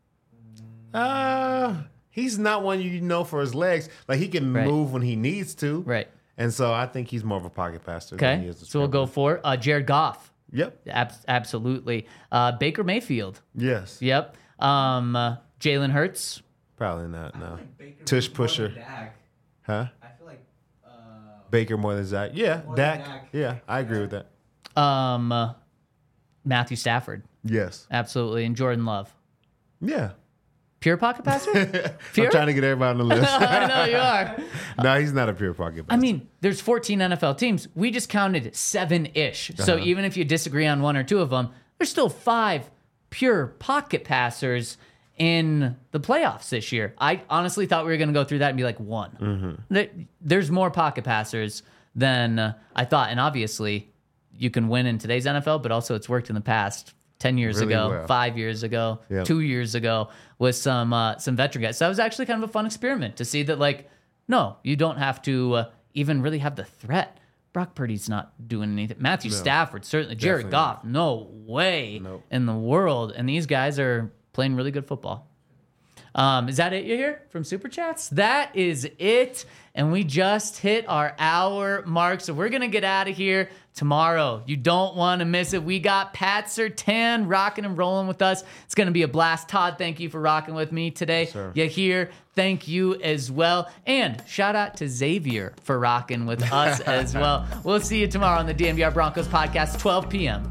Uh, he's not one you know for his legs. Like he can Right. move when he needs to. Right. And so I think he's more of a pocket passer than he Okay, is a so we'll go scrambler. for uh, Jared Goff. Yep. Ab- absolutely. Uh, Baker Mayfield. Yes. Yep. Um, uh, Jalen Hurts. Probably not, no. Tush pusher. Huh? I feel like Baker more than Zach. Yeah. than Dak. Dak. Yeah, I agree with that. Um, uh, Matthew Stafford. Yes. Absolutely. And Jordan Love. Yeah. Pure pocket passer? Pure? I'm trying to get everybody on the list. I know you are. No, he's not a pure pocket passer. I mean, there's fourteen N F L teams. We just counted seven-ish. So Uh-huh. even if you disagree on one or two of them, there's still five pure pocket passers in the playoffs this year. I honestly thought we were going to go through that and be like one. Mm-hmm. There- There's more pocket passers than uh, I thought. And obviously, you can win in today's N F L, but also it's worked in the past. ten years Really ago, well. five years ago, Yep. two years ago with some uh, some veteran guys. So that was actually kind of a fun experiment to see that, like, no, you don't have to uh, even really have the threat. Brock Purdy's not doing anything. Matthew Stafford, certainly. Jared Definitely Goff, no way Nope. in the world. And these guys are playing really good football. Um, is that it you hear from Super Chats? That is it. And we just hit our hour mark. So we're going to get out of here tomorrow. You don't want to miss it. We got Pat Surtain rocking and rolling with us. It's going to be a blast. Todd, thank you for rocking with me today. Sir. You here. Thank you as well. And shout out to Xavier for rocking with us as well. We'll see you tomorrow on the D N V R Broncos podcast, twelve p.m.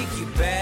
take you back.